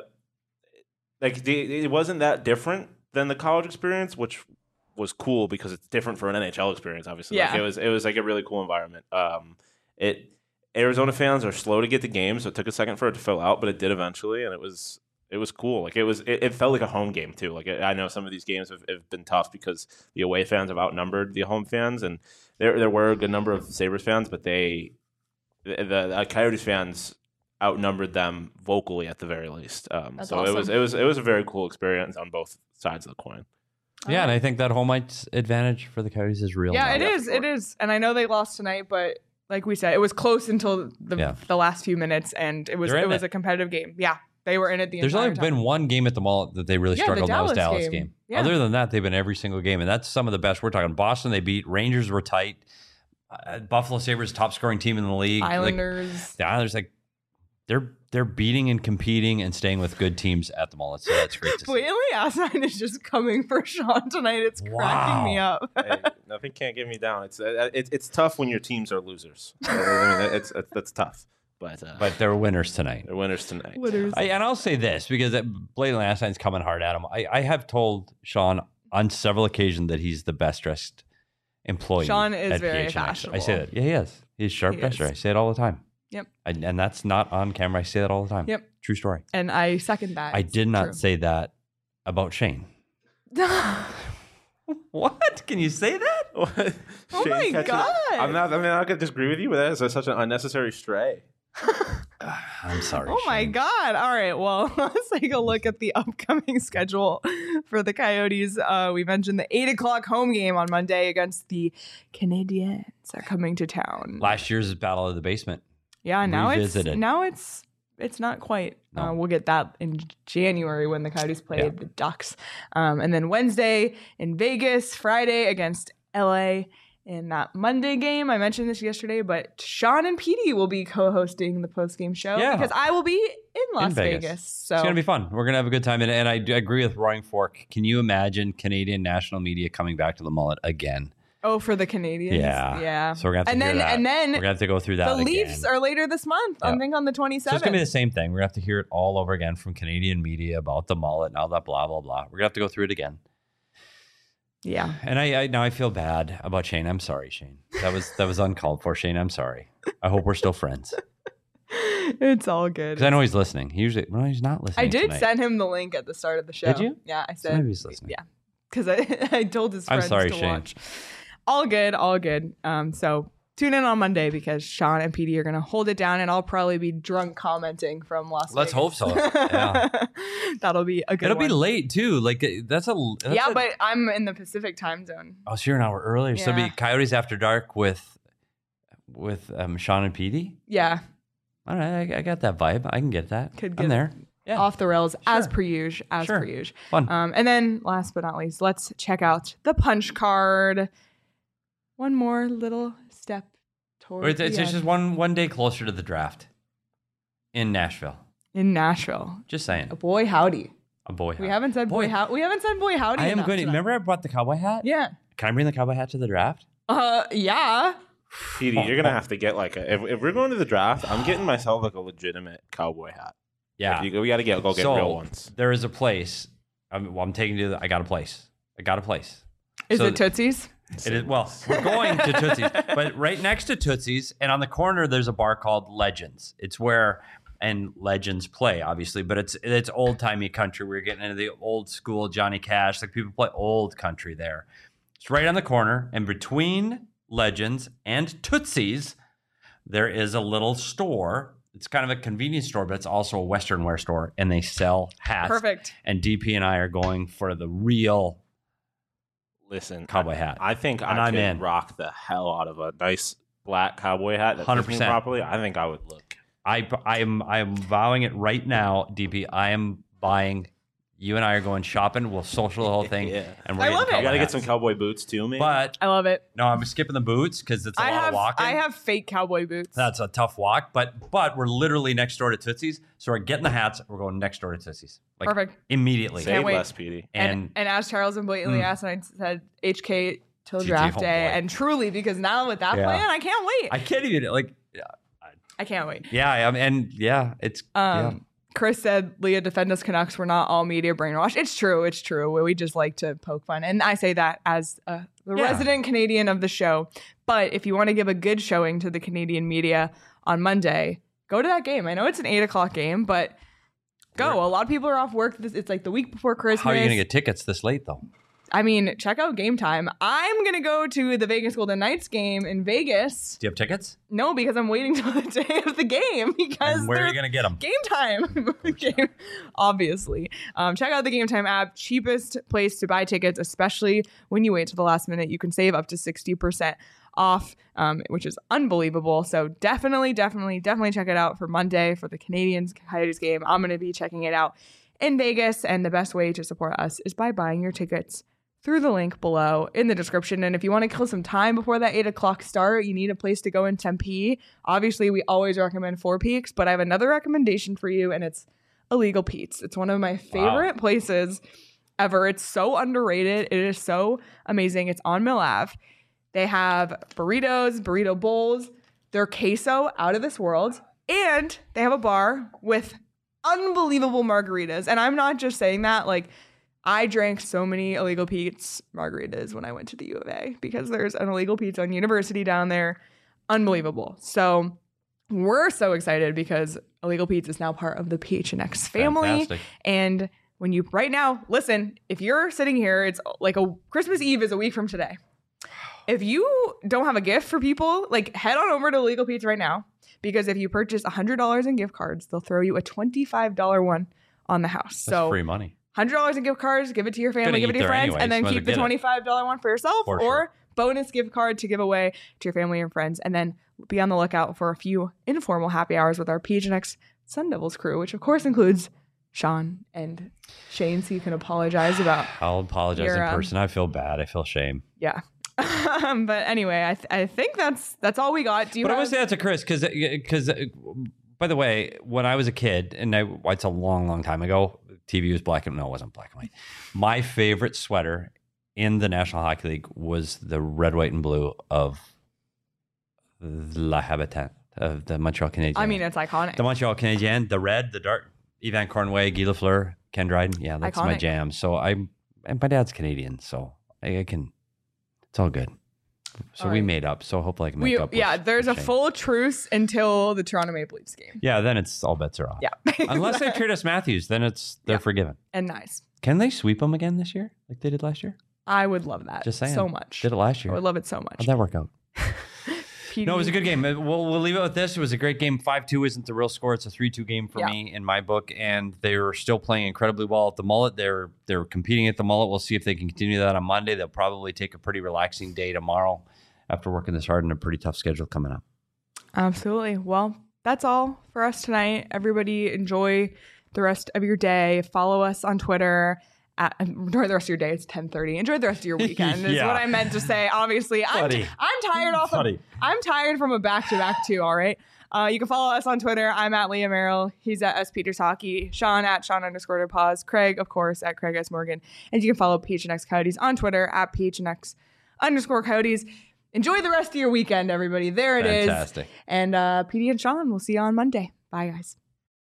Speaker 2: like the, it wasn't that different than the college experience, which was cool because it's different for an N H L experience. Obviously, like
Speaker 1: Yeah.
Speaker 2: it was it was like a really cool environment. Um, it Arizona fans are slow to get the game, so it took a second for it to fill out, but it did eventually, and it was it was cool. Like it was it, it felt like a home game too. Like I know some of these games have, have been tough because the away fans have outnumbered the home fans, and there there were a good number of Sabres fans, but they the, the, the Coyotes fans outnumbered them vocally at the very least. Um,
Speaker 1: That's
Speaker 2: so it was
Speaker 1: awesome.
Speaker 2: it was it was a very cool experience on both sides of the coin.
Speaker 3: Yeah, and I think that home ice advantage for the Coyotes is real.
Speaker 1: Yeah,
Speaker 3: now.
Speaker 1: it
Speaker 2: Yeah,
Speaker 1: is.
Speaker 2: for sure.
Speaker 1: It is. And I know they lost tonight, but like we said, it was close until the
Speaker 3: Yeah.
Speaker 1: the last few minutes, and it was
Speaker 3: They're
Speaker 1: it
Speaker 3: in
Speaker 1: was
Speaker 3: it.
Speaker 1: a competitive game. Yeah, they were in it the
Speaker 3: There's
Speaker 1: entire
Speaker 3: only
Speaker 1: time.
Speaker 3: been one game at the Mullet that they really
Speaker 1: Yeah, the
Speaker 3: struggled, and that was
Speaker 1: Dallas
Speaker 3: Dallas
Speaker 1: game.
Speaker 3: game.
Speaker 1: Yeah.
Speaker 3: Other than that, they've been every single game, and that's some of the best. We're talking Boston, they beat Rangers, were tight. Uh, Buffalo Sabres, top scoring team in the league. Like,
Speaker 1: Islanders.
Speaker 3: the Islanders, like they're they're beating and competing and staying with good teams at the Mullet. So that's great to see.
Speaker 1: Whaley Asinine is just coming for Sean tonight. It's cracking me up.
Speaker 2: Hey, nothing can't get me down. It's uh, it's it's tough when your teams are losers. I mean, it's, it's that's tough. But uh,
Speaker 3: But they're winners tonight.
Speaker 2: they're winners tonight.
Speaker 1: Winners.
Speaker 3: I, and I'll say this because Blayden Astine's coming hard at him. I, I have told Sean on several occasions that he's the best dressed employee.
Speaker 1: Sean is
Speaker 3: at
Speaker 1: very
Speaker 3: P H N X. I
Speaker 1: fashionable.
Speaker 3: say that. Yeah, he is. He's sharp
Speaker 1: He
Speaker 3: dresser.
Speaker 1: is.
Speaker 3: I say it all the time.
Speaker 1: Yep.
Speaker 3: I, and that's not on camera. I say that all the time.
Speaker 1: Yep.
Speaker 3: True story.
Speaker 1: And I second that.
Speaker 3: I
Speaker 1: It's
Speaker 3: did not
Speaker 1: true.
Speaker 3: say that about Shane. What? Can you say that?
Speaker 1: Oh
Speaker 2: Shane
Speaker 1: my
Speaker 2: catches-
Speaker 1: God.
Speaker 2: I'm not. I mean, I'm not gonna disagree with you, but that is such an unnecessary stray.
Speaker 3: I'm sorry.
Speaker 1: Oh my
Speaker 3: Shane.
Speaker 1: God. All right. Well, let's take a look at the upcoming schedule for the Coyotes. Uh, we mentioned the eight o'clock home game on Monday against the Canadiens are coming to town.
Speaker 3: Last year's Battle of the Basement.
Speaker 1: Yeah, now
Speaker 3: Revisited.
Speaker 1: it's now it's it's not quite.
Speaker 3: No.
Speaker 1: Uh, we'll get that in January when the Coyotes play
Speaker 3: Yeah.
Speaker 1: the Ducks. Um, and then Wednesday in Vegas, Friday against L A. In that Monday game, I mentioned this yesterday, but Sean and Petey will be co-hosting the post-game show
Speaker 3: Yeah.
Speaker 1: because I will be in Las
Speaker 3: In Vegas.
Speaker 1: Vegas. So
Speaker 3: It's going to be fun. We're going to have a good time. And, and I, do agree with Roaring Fork. Can you imagine Canadian national media coming back to the Mullet again?
Speaker 1: oh, for the Canadians,
Speaker 3: Yeah.
Speaker 1: yeah.
Speaker 3: So we're going to have
Speaker 1: and
Speaker 3: to hear
Speaker 1: then
Speaker 3: that.
Speaker 1: and then
Speaker 3: We're going to have to go through that
Speaker 1: the
Speaker 3: again.
Speaker 1: Leafs are later this month. I
Speaker 3: Yeah.
Speaker 1: think on the
Speaker 3: So
Speaker 1: twenty-seventh.
Speaker 3: it's going to be the same thing. We're going to have to hear it all over again from Canadian media about the Mullet and all that blah, blah, blah. We're going to have to go through it again.
Speaker 1: Yeah.
Speaker 3: And I, I now I feel bad about Shane. I'm sorry, Shane. That was that was uncalled for, Shane. I'm sorry. I hope we're still friends
Speaker 1: It's all good.
Speaker 3: because I know he's listening. He usually, well, he's not listening.
Speaker 1: I did
Speaker 3: tonight.
Speaker 1: send him the link at the start of the show.
Speaker 3: Did you?
Speaker 1: Yeah, I
Speaker 3: So
Speaker 1: said.
Speaker 3: maybe he's listening.
Speaker 1: Yeah, because I, I told his
Speaker 3: I'm
Speaker 1: friends
Speaker 3: sorry,
Speaker 1: to
Speaker 3: Shane.
Speaker 1: watch. All good, all good. Um, so tune in on Monday because Sean and Petey are gonna hold it down, and I'll probably be drunk commenting from Las
Speaker 3: Let's
Speaker 1: Vegas.
Speaker 3: hope so. Yeah.
Speaker 1: That'll be a good
Speaker 3: It'll
Speaker 1: one.
Speaker 3: be late too. Like uh, that's a that's
Speaker 1: yeah,
Speaker 3: a-
Speaker 1: but I'm in the Pacific time zone.
Speaker 3: oh, so you're an hour earlier. So it'll
Speaker 1: Yeah.
Speaker 3: be Coyotes After Dark with with um, Sean and Petey.
Speaker 1: Yeah,
Speaker 3: All right, I, I got that vibe. I can get that.
Speaker 1: Could
Speaker 3: I'm
Speaker 1: get-
Speaker 3: there. Yeah,
Speaker 1: off the rails as
Speaker 3: Sure.
Speaker 1: per usual. As
Speaker 3: Sure.
Speaker 1: per usual.
Speaker 3: fun.
Speaker 1: Um, and then last but not least, let's check out the punch card. One more little step
Speaker 3: Or
Speaker 1: towards
Speaker 3: it's it's
Speaker 1: the
Speaker 3: just
Speaker 1: end.
Speaker 3: one one day closer to the draft in Nashville.
Speaker 1: in Nashville.
Speaker 3: Just saying.
Speaker 1: Boy howdy.
Speaker 3: A boy.
Speaker 1: We
Speaker 3: hat.
Speaker 1: haven't said boy,
Speaker 3: Boy.
Speaker 1: how we haven't said boy howdy.
Speaker 3: I am
Speaker 1: enough
Speaker 3: going to
Speaker 1: tonight.
Speaker 3: remember I brought the cowboy hat.
Speaker 1: Yeah.
Speaker 3: Can I bring the cowboy hat to the draft?
Speaker 1: Uh yeah.
Speaker 2: Petey, you're gonna have to get like a. If, if we're going to the draft, I'm getting myself like a legitimate cowboy hat.
Speaker 3: Yeah.
Speaker 2: If you, we got to get go get
Speaker 3: So,
Speaker 2: real ones.
Speaker 3: There is a place. I'm, well, I'm taking you to. The, I got a place. I got a place.
Speaker 1: Is
Speaker 3: So
Speaker 1: it Tootsie's?
Speaker 3: It is. Well, we're going to Tootsie's, but right next to Tootsie's, and on the corner, there's a bar called Legends. It's where and Legends play, obviously, but it's it's old timey country. We're getting into the old school Johnny Cash. Like people play old country there. It's right on the corner, and between Legends and Tootsie's, there is a little store. It's kind of a convenience store, but it's also a Western wear store, and they sell hats.
Speaker 1: Perfect.
Speaker 3: And D P and I are going for the real
Speaker 2: Listen,
Speaker 3: cowboy hat.
Speaker 2: I think
Speaker 3: And
Speaker 2: I
Speaker 3: I'm
Speaker 2: could
Speaker 3: in.
Speaker 2: rock the hell out of a nice black cowboy hat that fits me
Speaker 3: one hundred percent.
Speaker 2: properly. I think I would look.
Speaker 3: I I am I am vowing it right now, D P. I am buying. You and I are going shopping. We'll social the whole thing,
Speaker 2: Yeah.
Speaker 3: and we're
Speaker 1: I
Speaker 3: getting
Speaker 1: love it.
Speaker 3: cowboy
Speaker 2: You got to get
Speaker 3: hats.
Speaker 2: some cowboy boots too, man.
Speaker 3: But
Speaker 1: I love it.
Speaker 3: no, I'm skipping the boots because it's a
Speaker 1: I
Speaker 3: lot
Speaker 1: have
Speaker 3: of walking.
Speaker 1: I have fake cowboy boots.
Speaker 3: That's a tough walk, but but we're literally next door to Tootsie's, so we're getting the hats. We're going next door to Tootsie's, like
Speaker 1: Perfect.
Speaker 3: immediately.
Speaker 2: Say
Speaker 1: Can't wait.
Speaker 2: less, Petey.
Speaker 1: And,
Speaker 3: And,
Speaker 1: and as Charles and blatantly
Speaker 3: Mm.
Speaker 1: asked, and I said H K till
Speaker 3: T T,
Speaker 1: draft
Speaker 3: oh
Speaker 1: day,
Speaker 3: boy.
Speaker 1: and truly because now with that
Speaker 3: Yeah.
Speaker 1: plan, I can't wait.
Speaker 3: I can't even like.
Speaker 1: I can't wait.
Speaker 3: Yeah, I am, and yeah, it's
Speaker 1: Um,
Speaker 3: yeah.
Speaker 1: Chris said, Leah, defend us Canucks. We're not all media brainwashed. It's true. It's true. We just like to poke fun. And I say that as uh, the
Speaker 3: Yeah.
Speaker 1: resident Canadian of the show. But if you want to give a good showing to the Canadian media on Monday, go to that game. I know it's an eight o'clock game, but go. A lot of people are off work. This- It's like the week before Christmas.
Speaker 3: How are you gonna get tickets this late though?
Speaker 1: I mean, check out Game Time. I'm going to go to the Vegas Golden Knights game in Vegas.
Speaker 3: Do you have tickets?
Speaker 1: No, because I'm waiting till the day of the game because
Speaker 3: And where are
Speaker 1: they're-
Speaker 3: you gonna get them?
Speaker 1: Game Time, game, obviously. Um, check out the Game Time app. Cheapest place to buy tickets, especially when you wait till the last minute. You can save up to sixty percent off, um, which is unbelievable. So definitely, definitely, definitely check it out for Monday for the Canadians Coyotes game. I'm going to be checking it out in Vegas, and the best way to support us is by buying your tickets through the link below in the description. And if you want to kill some time before that eight o'clock start, you need a place to go in Tempe. Obviously, we always recommend Four Peaks, but I have another recommendation for you, and it's Illegal Pete's. It's one of my favorite places ever. It's so underrated. It is so amazing. It's on Mill Ave. They have burritos, burrito bowls. Their queso out of this world. And they have a bar with unbelievable margaritas. And I'm not just saying that, like, I drank so many Illegal Pete's margaritas when I went to the U of A because there's an Illegal Pete's on University down there. Unbelievable. So we're so excited because Illegal Pete's is now part of the P H N X family.
Speaker 3: Fantastic.
Speaker 1: And when you, right now, listen, if you're sitting here, it's like a Christmas Eve is a week from today. If you don't have a gift for people, like head on over to Illegal Pete's right now because if you purchase one hundred dollars in gift cards, they'll throw you a twenty-five dollars one on the house.
Speaker 3: That's
Speaker 1: so
Speaker 3: free money.
Speaker 1: one hundred dollars in gift cards, give it to your family,
Speaker 3: Gonna
Speaker 1: give it
Speaker 3: eat
Speaker 1: to your
Speaker 3: there
Speaker 1: friends,
Speaker 3: anyways,
Speaker 1: and then
Speaker 3: might as
Speaker 1: keep
Speaker 3: well
Speaker 1: the
Speaker 3: get it.
Speaker 1: twenty-five dollars one for yourself
Speaker 3: For
Speaker 1: or
Speaker 3: sure.
Speaker 1: bonus gift card to give away to your family and friends. And then be on the lookout for a few informal happy hours with our P H N X Sun Devils crew, which of course includes Sean and Shane, so you can apologize about.
Speaker 3: I'll apologize
Speaker 1: your,
Speaker 3: in
Speaker 1: um,
Speaker 3: person. I feel bad. I feel shame.
Speaker 1: Yeah. But anyway, I th- I think that's that's all we got. Do you
Speaker 3: But
Speaker 1: have-
Speaker 3: I would say that to Chris because because by the way, when I was a kid, and I, it's a long, long time ago, T V was black and no, it wasn't black and white. My favorite sweater in the National Hockey League was the red, white, and blue of La Habitat of the Montreal Canadiens.
Speaker 1: I mean, it's iconic.
Speaker 3: The Montreal Canadiens, the red, the dark, Yvan Cornway, Guy Lafleur, Ken Dryden. Yeah, that's my
Speaker 1: Iconic.
Speaker 3: jam. So I'm, and my dad's Canadian, so I, I can, it's all good. So
Speaker 1: All
Speaker 3: we
Speaker 1: right.
Speaker 3: made up. So hopefully I can make
Speaker 1: we
Speaker 3: up. with-
Speaker 1: yeah, there's a
Speaker 3: with Shane.
Speaker 1: full truce until the Toronto Maple Leafs game.
Speaker 3: Yeah, then it's all bets are off.
Speaker 1: Yeah.
Speaker 3: Unless they trade us Matthews, then it's they're
Speaker 1: Yeah.
Speaker 3: forgiven.
Speaker 1: And nice.
Speaker 3: Can they sweep them again this year, like they did last year?
Speaker 1: I would love that
Speaker 3: Just saying.
Speaker 1: so much.
Speaker 3: Did it last
Speaker 1: I
Speaker 3: year?
Speaker 1: would love it so much.
Speaker 3: How'd that work out?
Speaker 1: P D.
Speaker 3: No, it was a good game. Uh, We'll, we'll leave it with this. It was a great game. five two isn't the real score. It's a three two game for
Speaker 1: Yeah.
Speaker 3: me in my book. And they're still playing incredibly well at the Mullet. They're they're competing at the Mullet. We'll see if they can continue that on Monday. They'll probably take a pretty relaxing day tomorrow after working this hard and a pretty tough schedule coming up.
Speaker 1: Absolutely. Well, that's all for us tonight. Everybody enjoy the rest of your day. Follow us on Twitter. At, enjoy the rest of your day. It's ten thirty. Enjoy the rest of your weekend is
Speaker 3: Yeah.
Speaker 1: what I meant to say. Obviously, I'm,
Speaker 3: Buddy.
Speaker 1: I'm tired off of,
Speaker 3: Buddy.
Speaker 1: I'm tired from a back-to-back too, all right? Uh, you can follow us on Twitter. I'm at Leah Merrill. He's at S. Peters Hockey. Sean at Sean underscore pause. Craig, of course, at Craig S. Morgan. And you can follow P H N X Coyotes on Twitter at P H N X underscore Coyotes. Enjoy the rest of your weekend, everybody. There it is.
Speaker 3: Fantastic.
Speaker 1: And uh, P D and Sean, we'll see you on Monday. Bye, guys.